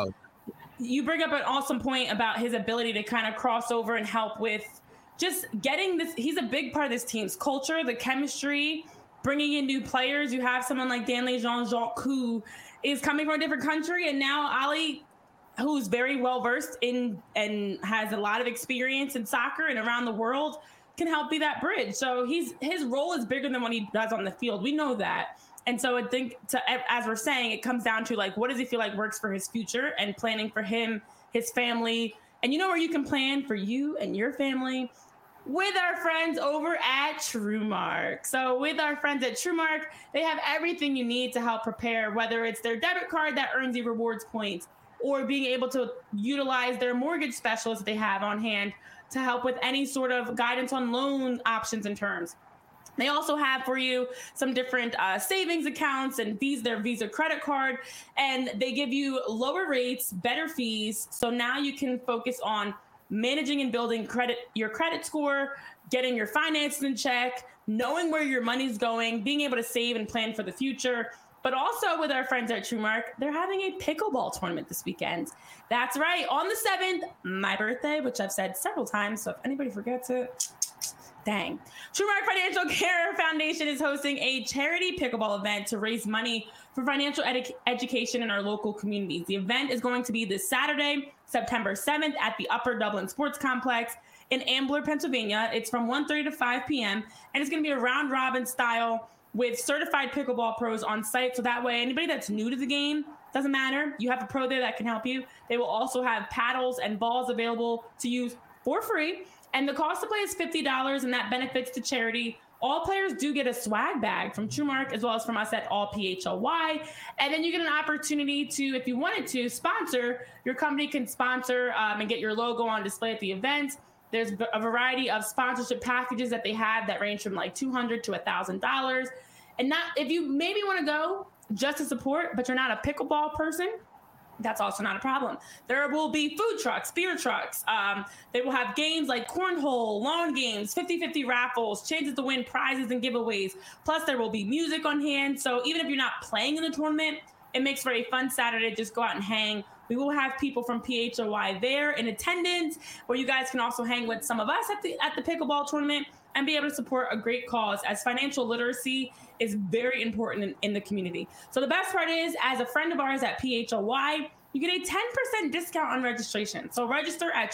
you bring up an awesome point about his ability to kind of cross over and help with just getting this. He's a big part of this team's culture, the chemistry, bringing in new players. You have someone like Danley Jean-Jacques who is coming from a different country, and now Ali, who's very well versed in and has a lot of experience in soccer and around the world, can help be that bridge. So his role is bigger than what he does on the field. We know that. And so I think, as we're saying, it comes down to, like, what does he feel like works for his future and planning for him, his family. And you know where you can plan for you and your family? With our friends over at TrueMark. So with our friends at TrueMark, they have everything you need to help prepare, whether it's their debit card that earns you rewards points, or being able to utilize their mortgage specialist they have on hand to help with any sort of guidance on loan options and terms. They also have for you some different savings accounts and their Visa credit card, and they give you lower rates, better fees. So now you can focus on managing and building your credit score, getting your finances in check, knowing where your money's going, being able to save and plan for the future. But also with our friends at TrueMark, they're having a pickleball tournament this weekend. That's right, on the 7th, my birthday, which I've said several times, so if anybody forgets it, dang. TrueMark Financial Care Foundation is hosting a charity pickleball event to raise money for financial education in our local communities. The event is going to be this Saturday, September 7th at the Upper Dublin Sports Complex in Ambler, Pennsylvania. It's from 1:30 to 5 p.m. and it's going to be a round-robin style with certified pickleball pros on site. So that way, anybody that's new to the game, doesn't matter. You have a pro there that can help you. They will also have paddles and balls available to use for free. And the cost to play is $50, and that benefits the charity. All players do get a swag bag from TrueMark, as well as from us at All PHLY. And then you get an opportunity to, if you wanted to, sponsor. Your company can sponsor and get your logo on display at the event. There's a variety of sponsorship packages that they have that range from like $200 to $1,000. And not, if you maybe want to go just to support, but you're not a pickleball person, that's also not a problem. There will be food trucks, beer trucks. They will have games like cornhole, lawn games, 50-50 raffles, chances to win prizes and giveaways. Plus, there will be music on hand. So even if you're not playing in the tournament, it makes for a fun Saturday. Just go out and hang. We will have people from PHOY there in attendance, where you guys can also hang with some of us at the pickleball tournament and be able to support a great cause, as financial literacy is very important in the community. So the best part is, as a friend of ours at PHOY, you get a 10% discount on registration. So register at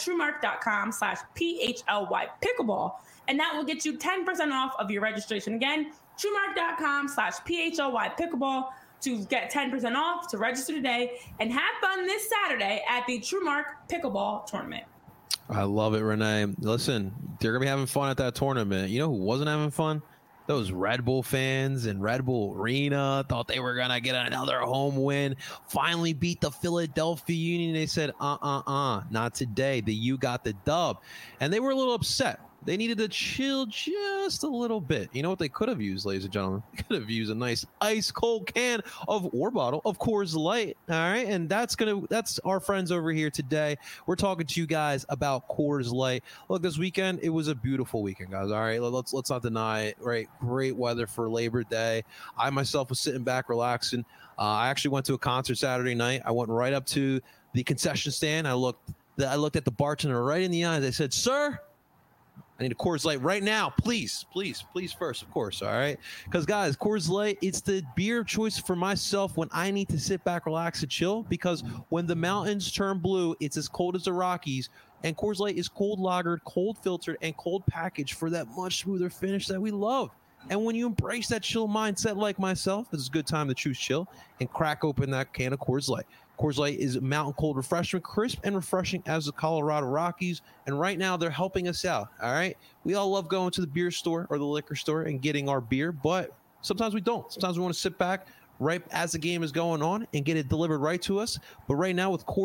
TrueMark.com/PHLY pickleball, and that will get you 10% off of your registration. Again, TrueMark.com/PHLY pickleball to get 10% off, to register today and have fun this Saturday at the TrueMark pickleball tournament. I love it, Renee. Listen, they're going to be having fun at that tournament. You know who wasn't having fun? Those Red Bull fans in Red Bull Arena thought they were going to get another home win, finally beat the Philadelphia Union. They said, not today. The U got the dub. And they were a little upset. They needed to chill just a little bit. You know what they could have used, ladies and gentlemen? They could have used a nice ice cold can or bottle of Coors Light. All right. And that's our friends over here today. We're talking to you guys about Coors Light. Look, this weekend, it was a beautiful weekend, guys. All right. Let's not deny it. Right. Great weather for Labor Day. I myself was sitting back, relaxing. I actually went to a concert Saturday night. I went right up to the concession stand. I looked at the bartender right in the eyes. I said, "Sir, I need a Coors Light right now, please first, of course, all right?" Because, guys, Coors Light, it's the beer choice for myself when I need to sit back, relax, and chill. Because when the mountains turn blue, it's as cold as the Rockies. And Coors Light is cold lagered, cold filtered, and cold packaged for that much smoother finish that we love. And when you embrace that chill mindset like myself, it's a good time to choose chill and crack open that can of Coors Light. Coors Light is mountain cold refreshment, crisp and refreshing as the Colorado Rockies. And right now they're helping us out. All right. We all love going to the beer store or the liquor store and getting our beer, but sometimes we don't. Sometimes we want to sit back right as the game is going on and get it delivered right to us. But right now with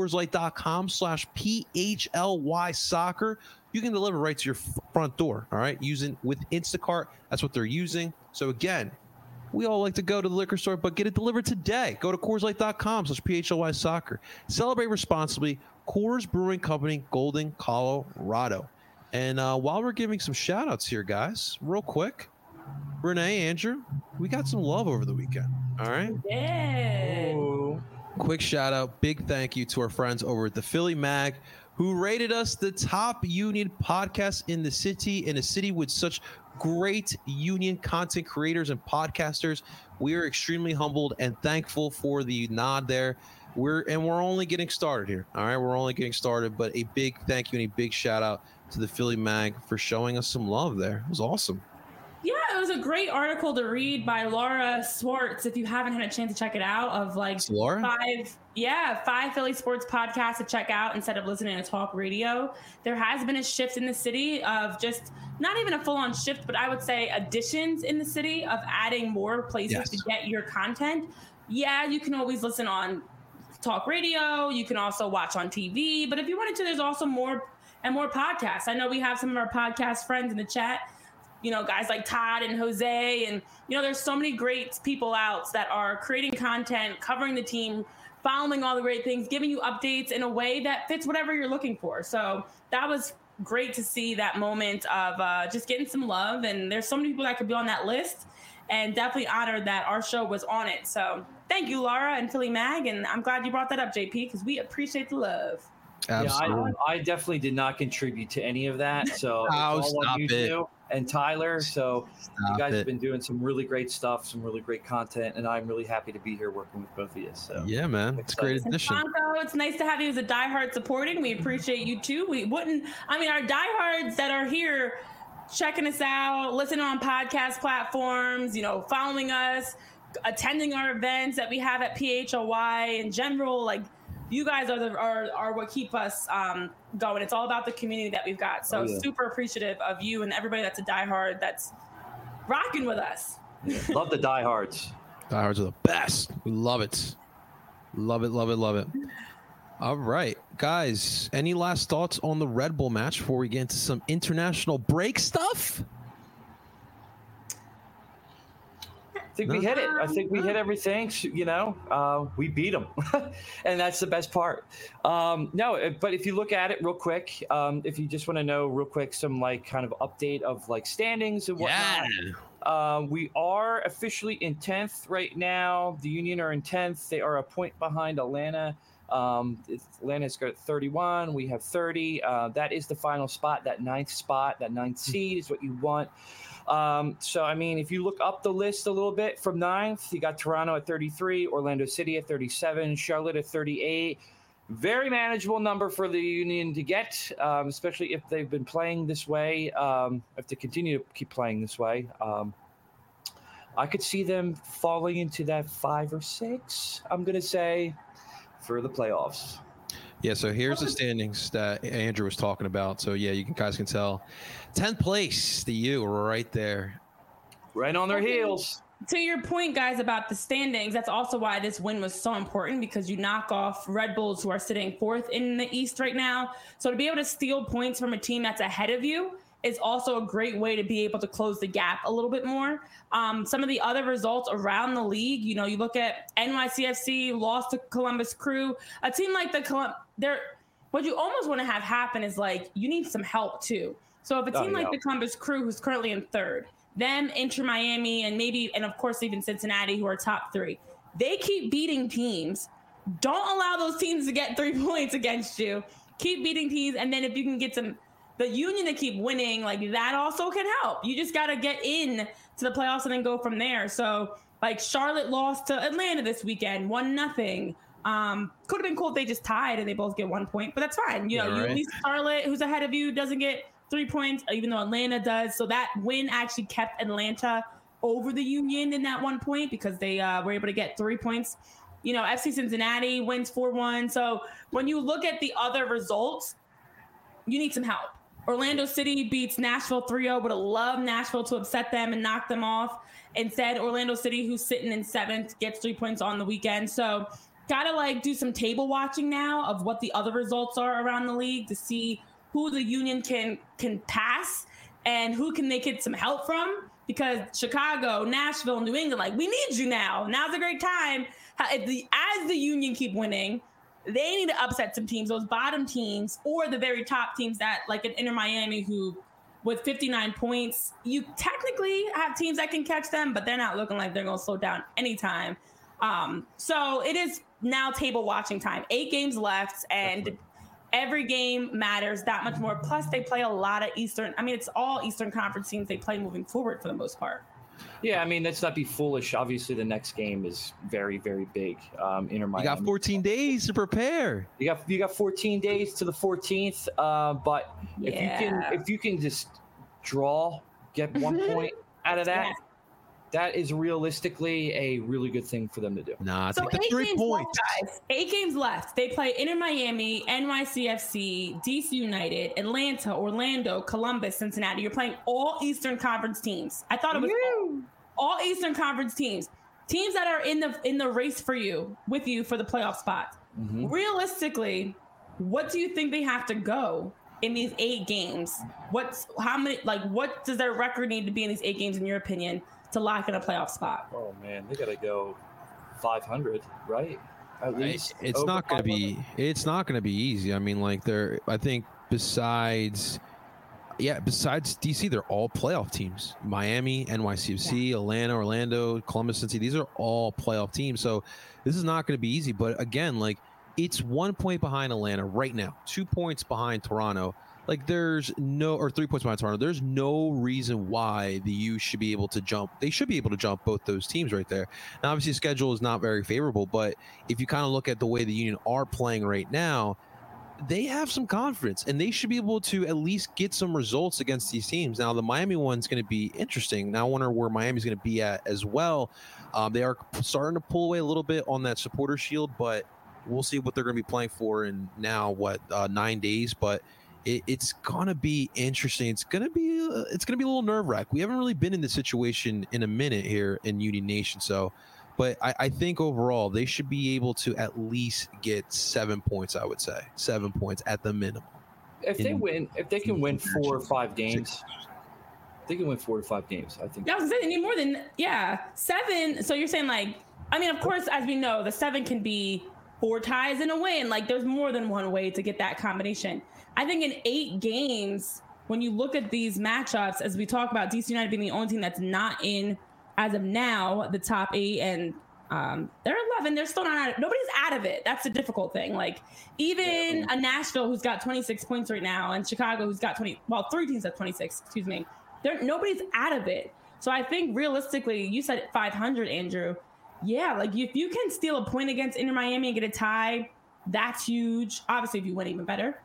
CoorsLight.com/PHLY soccer, you can deliver right to your front door. All right. Using with Instacart. That's what they're using. So again, we all like to go to the liquor store, but get it delivered today. Go to CoorsLight.com/PHLY soccer. Celebrate responsibly. Coors Brewing Company, Golden, Colorado. And while we're giving some shout outs here, guys, real quick, Renee, Andrew, we got some love over the weekend. All right. Yeah. Quick shout out. Big thank you to our friends over at the Philly Mag, who rated us the top union podcast in the city, with such great union content creators and podcasters. We are extremely humbled and thankful for the nod there. We're only getting started here. All right, we're only getting started, but a big thank you and a big shout out to the Philly Mag for showing us some love there. It was awesome. Yeah, it was a great article to read by Laura Swartz. If you haven't had a chance to check it out, of like five Philly sports podcasts to check out instead of listening to talk radio. There has been a shift in the city of just not even a full-on shift, but I would say additions in the city of adding more places to get your content. Yeah, you can always listen on talk radio. You can also watch on TV. But if you wanted to, there's also more and more podcasts. I know we have some of our podcast friends in the chat, you know, guys like Todd and Jose. And, you know, there's so many great people out that are creating content, covering the team, following all the great things, giving you updates in a way that fits whatever you're looking for. So that was great to see that moment of just getting some love. And there's so many people that could be on that list, and definitely honored that our show was on it. So thank you, Laura and Philly Mag. And I'm glad you brought that up, JP, because we appreciate the love. Absolutely. Yeah, I definitely did not contribute to any of that. So it's all on you two and Tyler. So you guys have been doing some really great stuff, some really great content, and I'm really happy to be here working with both of you. So yeah, man, it's a great addition. Franco, it's nice to have you as a diehard supporting. We appreciate you too. Our diehards that are here checking us out, listening on podcast platforms, you know, following us, attending our events that we have at PHLY in general, like, you guys are what keep us going. It's all about the community that we've got. So super appreciative of you and everybody that's a diehard that's rocking with us. Yeah. Love the diehards. Diehards are the best. We love it. Love it, love it, love it. All right, guys, any last thoughts on the Red Bull match before we get into some international break stuff? I think we hit it. I think we hit everything. You know, we beat them, and that's the best part. No, but if you look at it real quick, if you just want to know real quick some like kind of update of like standings and whatnot, we are officially in 10th right now. The Union are in 10th. They are a point behind Atlanta. Atlanta's got 31. We have 30. That is the final spot. That ninth spot, that ninth seed is what you want. So, I mean, if you look up the list a little bit from 9th, you got Toronto at 33, Orlando City at 37, Charlotte at 38. Very manageable number for the Union to get, especially if they've been playing this way, if they continue to keep playing this way. I could see them falling into that 5 or 6, I'm going to say, for the playoffs. Yeah, so here's the standings that Andrew was talking about. So, yeah, you guys can tell. 10th place, the U, right there. Right on their heels. To your point, guys, about the standings, that's also why this win was so important, because you knock off Red Bulls, who are sitting 4th in the East right now. So to be able to steal points from a team that's ahead of you is also a great way to be able to close the gap a little bit more. Some of the other results around the league, you know, you look at NYCFC lost to Columbus Crew, a team like what you almost want to have happen is like, you need some help too. So if a team like the Columbus Crew, who's currently in 3rd, them, Inter Miami, and of course even Cincinnati, who are top 3, they keep beating teams. Don't allow those teams to get 3 points against you. Keep beating teams, and then if you can get the Union to keep winning, like, that also can help. You just got to get in to the playoffs and then go from there. So, like, Charlotte lost to Atlanta this weekend, 1-0. Could have been cool if they just tied and they both get 1 point, but that's fine. You know, at least Charlotte, who's ahead of you, doesn't get 3 points, even though Atlanta does. So that win actually kept Atlanta over the Union in that 1 point, because they were able to get 3 points FC Cincinnati wins 4-1. So when you look at the other results, you need some help. Orlando City beats Nashville 3-0. Would have loved Nashville to upset them and knock them off. Instead, Orlando City, who's sitting in 7th, gets 3 points on the weekend. So gotta do some table watching now of what the other results are around the league to see who the Union can pass and who can they get some help from. Because Chicago, Nashville, New England, we need you now. Now's a great time. As the Union keep winning, they need to upset some teams, those bottom teams, or the very top teams that, like an Inter Miami, who with 59 points, you technically have teams that can catch them, but they're not looking like they're going to slow down anytime. So it is now table watching time. 8 games left, and every game matters that much more. Plus, they play a lot of Eastern. It's all Eastern Conference teams they play moving forward for the most part. Yeah, let's not be foolish. Obviously, the next game is very, very big. Inter Miami. You got 14 days to prepare. You got 14 days to the 14th. But if you can just get 1 point out of that. Yeah. That is realistically a really good thing for them to do. Nah, so take the 3 points. Left, guys. 8 games left. They play Inter Miami, NYCFC, DC United, Atlanta, Orlando, Columbus, Cincinnati. You're playing all Eastern Conference teams. I thought it was all Eastern Conference teams. Teams that are in the race with you for the playoff spot. Mm-hmm. Realistically, what do you think they have to go in these 8 games? What does their record need to be in these 8 games, in your opinion, to lock in a playoff spot? Oh man, they gotta go 500, right? At least it's not gonna be easy. I think besides DC, they're all playoff teams. Miami, NYCFC, Atlanta, Orlando, Columbus, Cincinnati, these are all playoff teams. So this is not going to be easy. But again, it's 1 point behind Atlanta right now, 2 points behind Toronto. 3 points behind Toronto. There's no reason why the U should be able to jump. They should be able to jump both those teams right there. Now, obviously, the schedule is not very favorable, but if you kind of look at the way the Union are playing right now, they have some confidence, and they should be able to at least get some results against these teams. Now, the Miami one's going to be interesting. Now, I wonder where Miami's going to be at as well. They are starting to pull away a little bit on that supporter shield, but we'll see what they're going to be playing for in now 9 days. But it's gonna be interesting. It's gonna be a little nerve-wracking. We haven't really been in this situation in a minute here in Union Nation. So, but I think overall they should be able to at least get 7 points. I would say 7 points at the minimum. If they can win 4 or 5 games, they can win 4 or 5 games. I think. Yeah, they need more than 7. So you're saying of course, as we know, the 7 can be 4 ties and a win. There's more than one way to get that combination. I think in 8 games, when you look at these matchups, as we talk about DC United being the only team that's not in, as of now, the top 8, and they're 11. They're still not nobody's out of it. That's the difficult thing. Even a Nashville who's got 26 points right now, and Chicago who's got 3 teams at 26. Excuse me. Nobody's out of it. So I think realistically, you said 500, Andrew. Yeah, if you can steal a point against Inter Miami and get a tie, that's huge. Obviously, if you win, even better.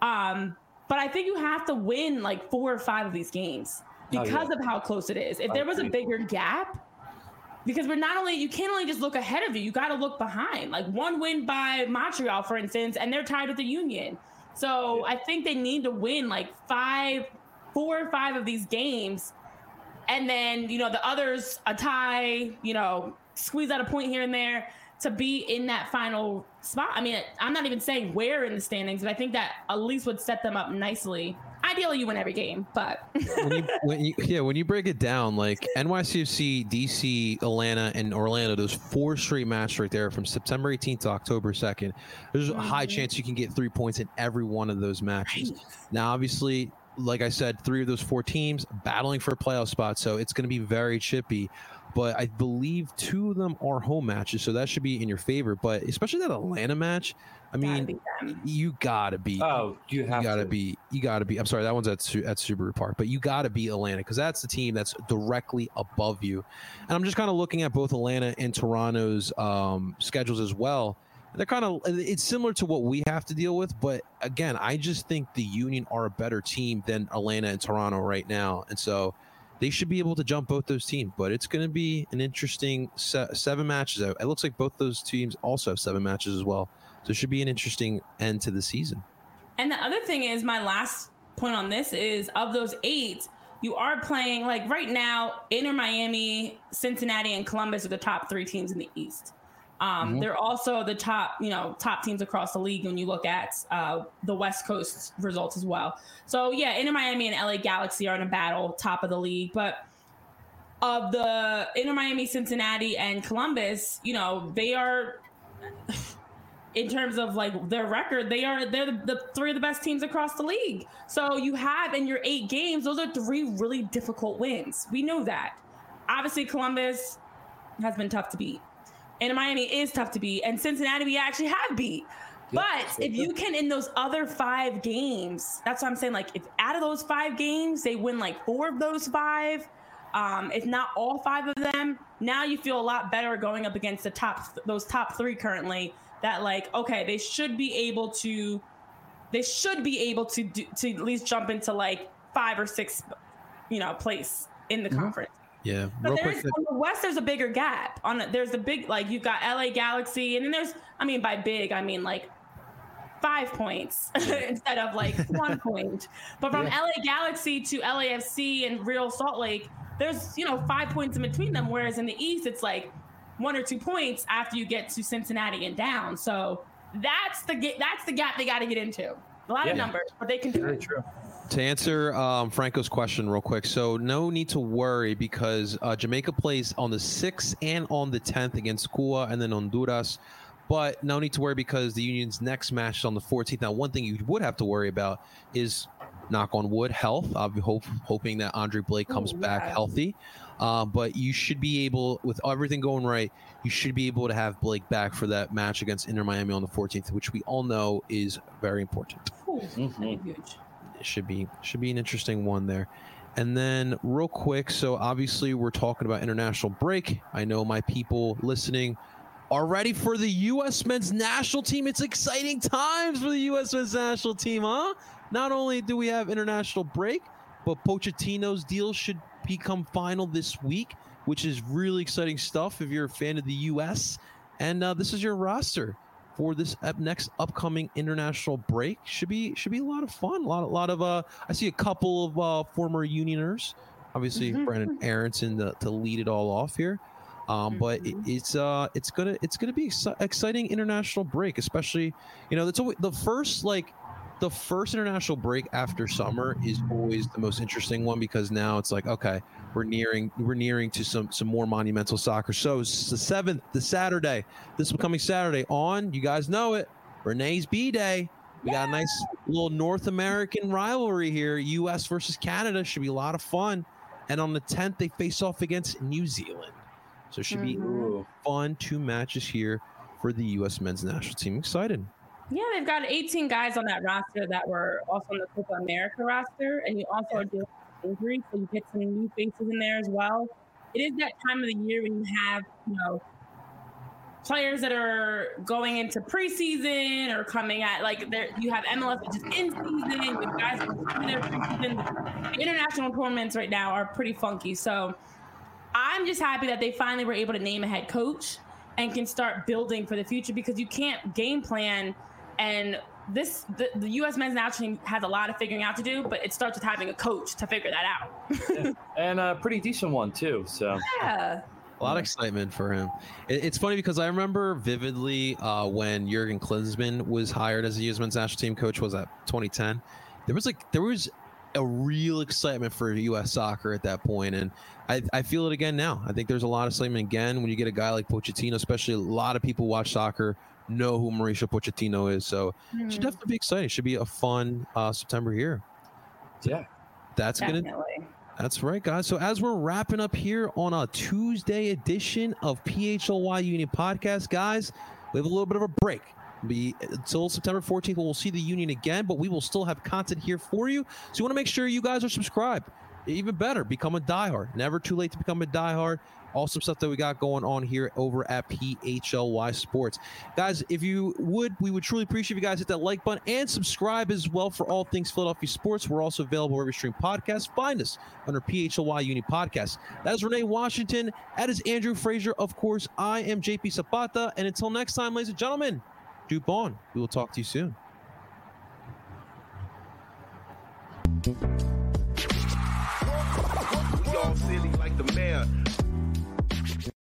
But I think you have to win 4 or 5 of these games because of how close it is. If there was a bigger gap, because you can't only just look ahead of you got to look behind. One win by Montreal, for instance, and they're tied with the Union. So I think they need to win 4 or 5 of these games, and then the others a tie, squeeze out a point here and there to be in that final spot. I'm not even saying where in the standings, but I think that at least would set them up nicely. Ideally, you win every game, but when you break it down, NYCFC, DC, Atlanta, and Orlando, those 4 straight matches right there from September 18th to October 2nd, there's a high chance you can get 3 points in every one of those matches. Right. Now, obviously, like I said, 3 of those 4 teams battling for a playoff spot, so it's going to be very chippy. But I believe 2 of them are home matches, so that should be in your favor. But especially that Atlanta match, you gotta be. Oh, you gotta be. I'm sorry, that one's at Subaru Park, but you gotta beat Atlanta because that's the team that's directly above you. And I'm just kind of looking at both Atlanta and Toronto's schedules as well. They're it's similar to what we have to deal with, but again, I just think the Union are a better team than Atlanta and Toronto right now, and so. they should be able to jump both those teams. But it's going to be an interesting 7 matches. It looks like both those teams also have 7 matches as well. So it should be an interesting end to the season. And the other thing is, my last point on this is, of those 8, you are playing, like right now, Inter Miami, Cincinnati, and Columbus are the top 3 teams in the East. They're also the top teams across the league when you look at the West Coast results as well. So yeah, Inter Miami and LA Galaxy are in a battle, top of the league. But of the Inter Miami, Cincinnati, and Columbus, they are, in terms of like their record, they're the 3 of the best teams across the league. So you have in your 8 games, those are 3 really difficult wins. We know that. Obviously, Columbus has been tough to beat. And Miami is tough to beat. And Cincinnati we actually have beat. But if you can, in those other 5 games, that's what I'm saying. Like, if out of those 5 games, they win like 4 of those 5, if not all 5 of them, now you feel a lot better going up against those top 3 currently. That like, okay, they should be able to at least jump into like 5 or 6, place in the conference. Yeah. But on the West, there's a bigger gap. There's a big, like, you've got LA Galaxy, and then there's, by big, I mean like 5 points instead of like 1 point. But from LA Galaxy to LAFC and Real Salt Lake, there's 5 points in between them. Whereas in the East, it's like 1 or 2 points after you get to Cincinnati and down. So that's the gap they got to get into. A lot of numbers, but they can do it. True. To answer Franco's question real quick, so no need to worry because Jamaica plays on the 6th and on the 10th against Cuba and then Honduras. But no need to worry because the Union's next match is on the 14th. Now, one thing you would have to worry about is, knock on wood, health. I'll be hoping that Andre Blake comes back healthy. But you should be able, with everything going right, you should be able to have Blake back for that match against Inter Miami on the 14th, which we all know is very important. Huge. It should be an interesting one there. And then real quick, so obviously we're talking about international break. I know my people listening are ready for the U.S. men's national team. It's exciting times for the U.S. men's national team, huh? Not only do we have international break, but Pochettino's deal should become final this week, which is really exciting stuff if you're a fan of the U.S. And this is your roster for this next upcoming international break. Should be a lot of fun. A lot of I see a couple of former Unioners, obviously Brandon Aronson to lead it all off here. But it's gonna be exciting international break, especially it's always the first international break after summer is always the most interesting one because now it's like, okay, we're nearing to some more monumental soccer. So it's the 7th, this coming Saturday on, you guys know it, Renee's B-Day. We got a nice little North American rivalry here. U.S. versus Canada should be a lot of fun. And on the 10th, they face off against New Zealand. So it should be fun 2 matches here for the U.S. men's national team. Excited. Yeah, they've got 18 guys on that roster that were also on the Copa America roster, and you also are dealing with injuries, so you get some new faces in there as well. It is that time of the year when you have, players that are going into preseason or coming at you have MLS, which is in season. You have guys in their preseason. The international tournaments right now are pretty funky, so I'm just happy that they finally were able to name a head coach and can start building for the future because you can't game plan. And the U.S. men's national team has a lot of figuring out to do, but it starts with having a coach to figure that out. And a pretty decent one, too. So yeah. A lot of excitement for him. It's funny because I remember vividly when Jurgen Klinsmann was hired as the U.S. men's national team coach, was that 2010? There was a real excitement for U.S. soccer at that point, and I feel it again now. I think there's a lot of excitement again when you get a guy like Pochettino, especially a lot of people who watch soccer know who Mauricio Pochettino is. So it should definitely be exciting. It should be a fun September here. Yeah. That's right, guys. So as we're wrapping up here on a Tuesday edition of PHLY Union Podcast, guys, we have a little bit of a break. Until September 14th, we'll see the Union again, but we will still have content here for you. So you want to make sure you guys are subscribed. Even better, become a diehard. Never too late to become a diehard. awesome stuff that we got going on here over at PHLY Sports. Guys, if you would, we would truly appreciate if you guys hit that like button and subscribe as well for all things Philadelphia sports. We're also available wherever you stream podcasts. Find us under PHLY Uni Podcast. That is Renee Washington. That is Andrew Frazier. Of course, I am JP Zapata. And until next time, ladies and gentlemen, Duke on. We will talk to you soon.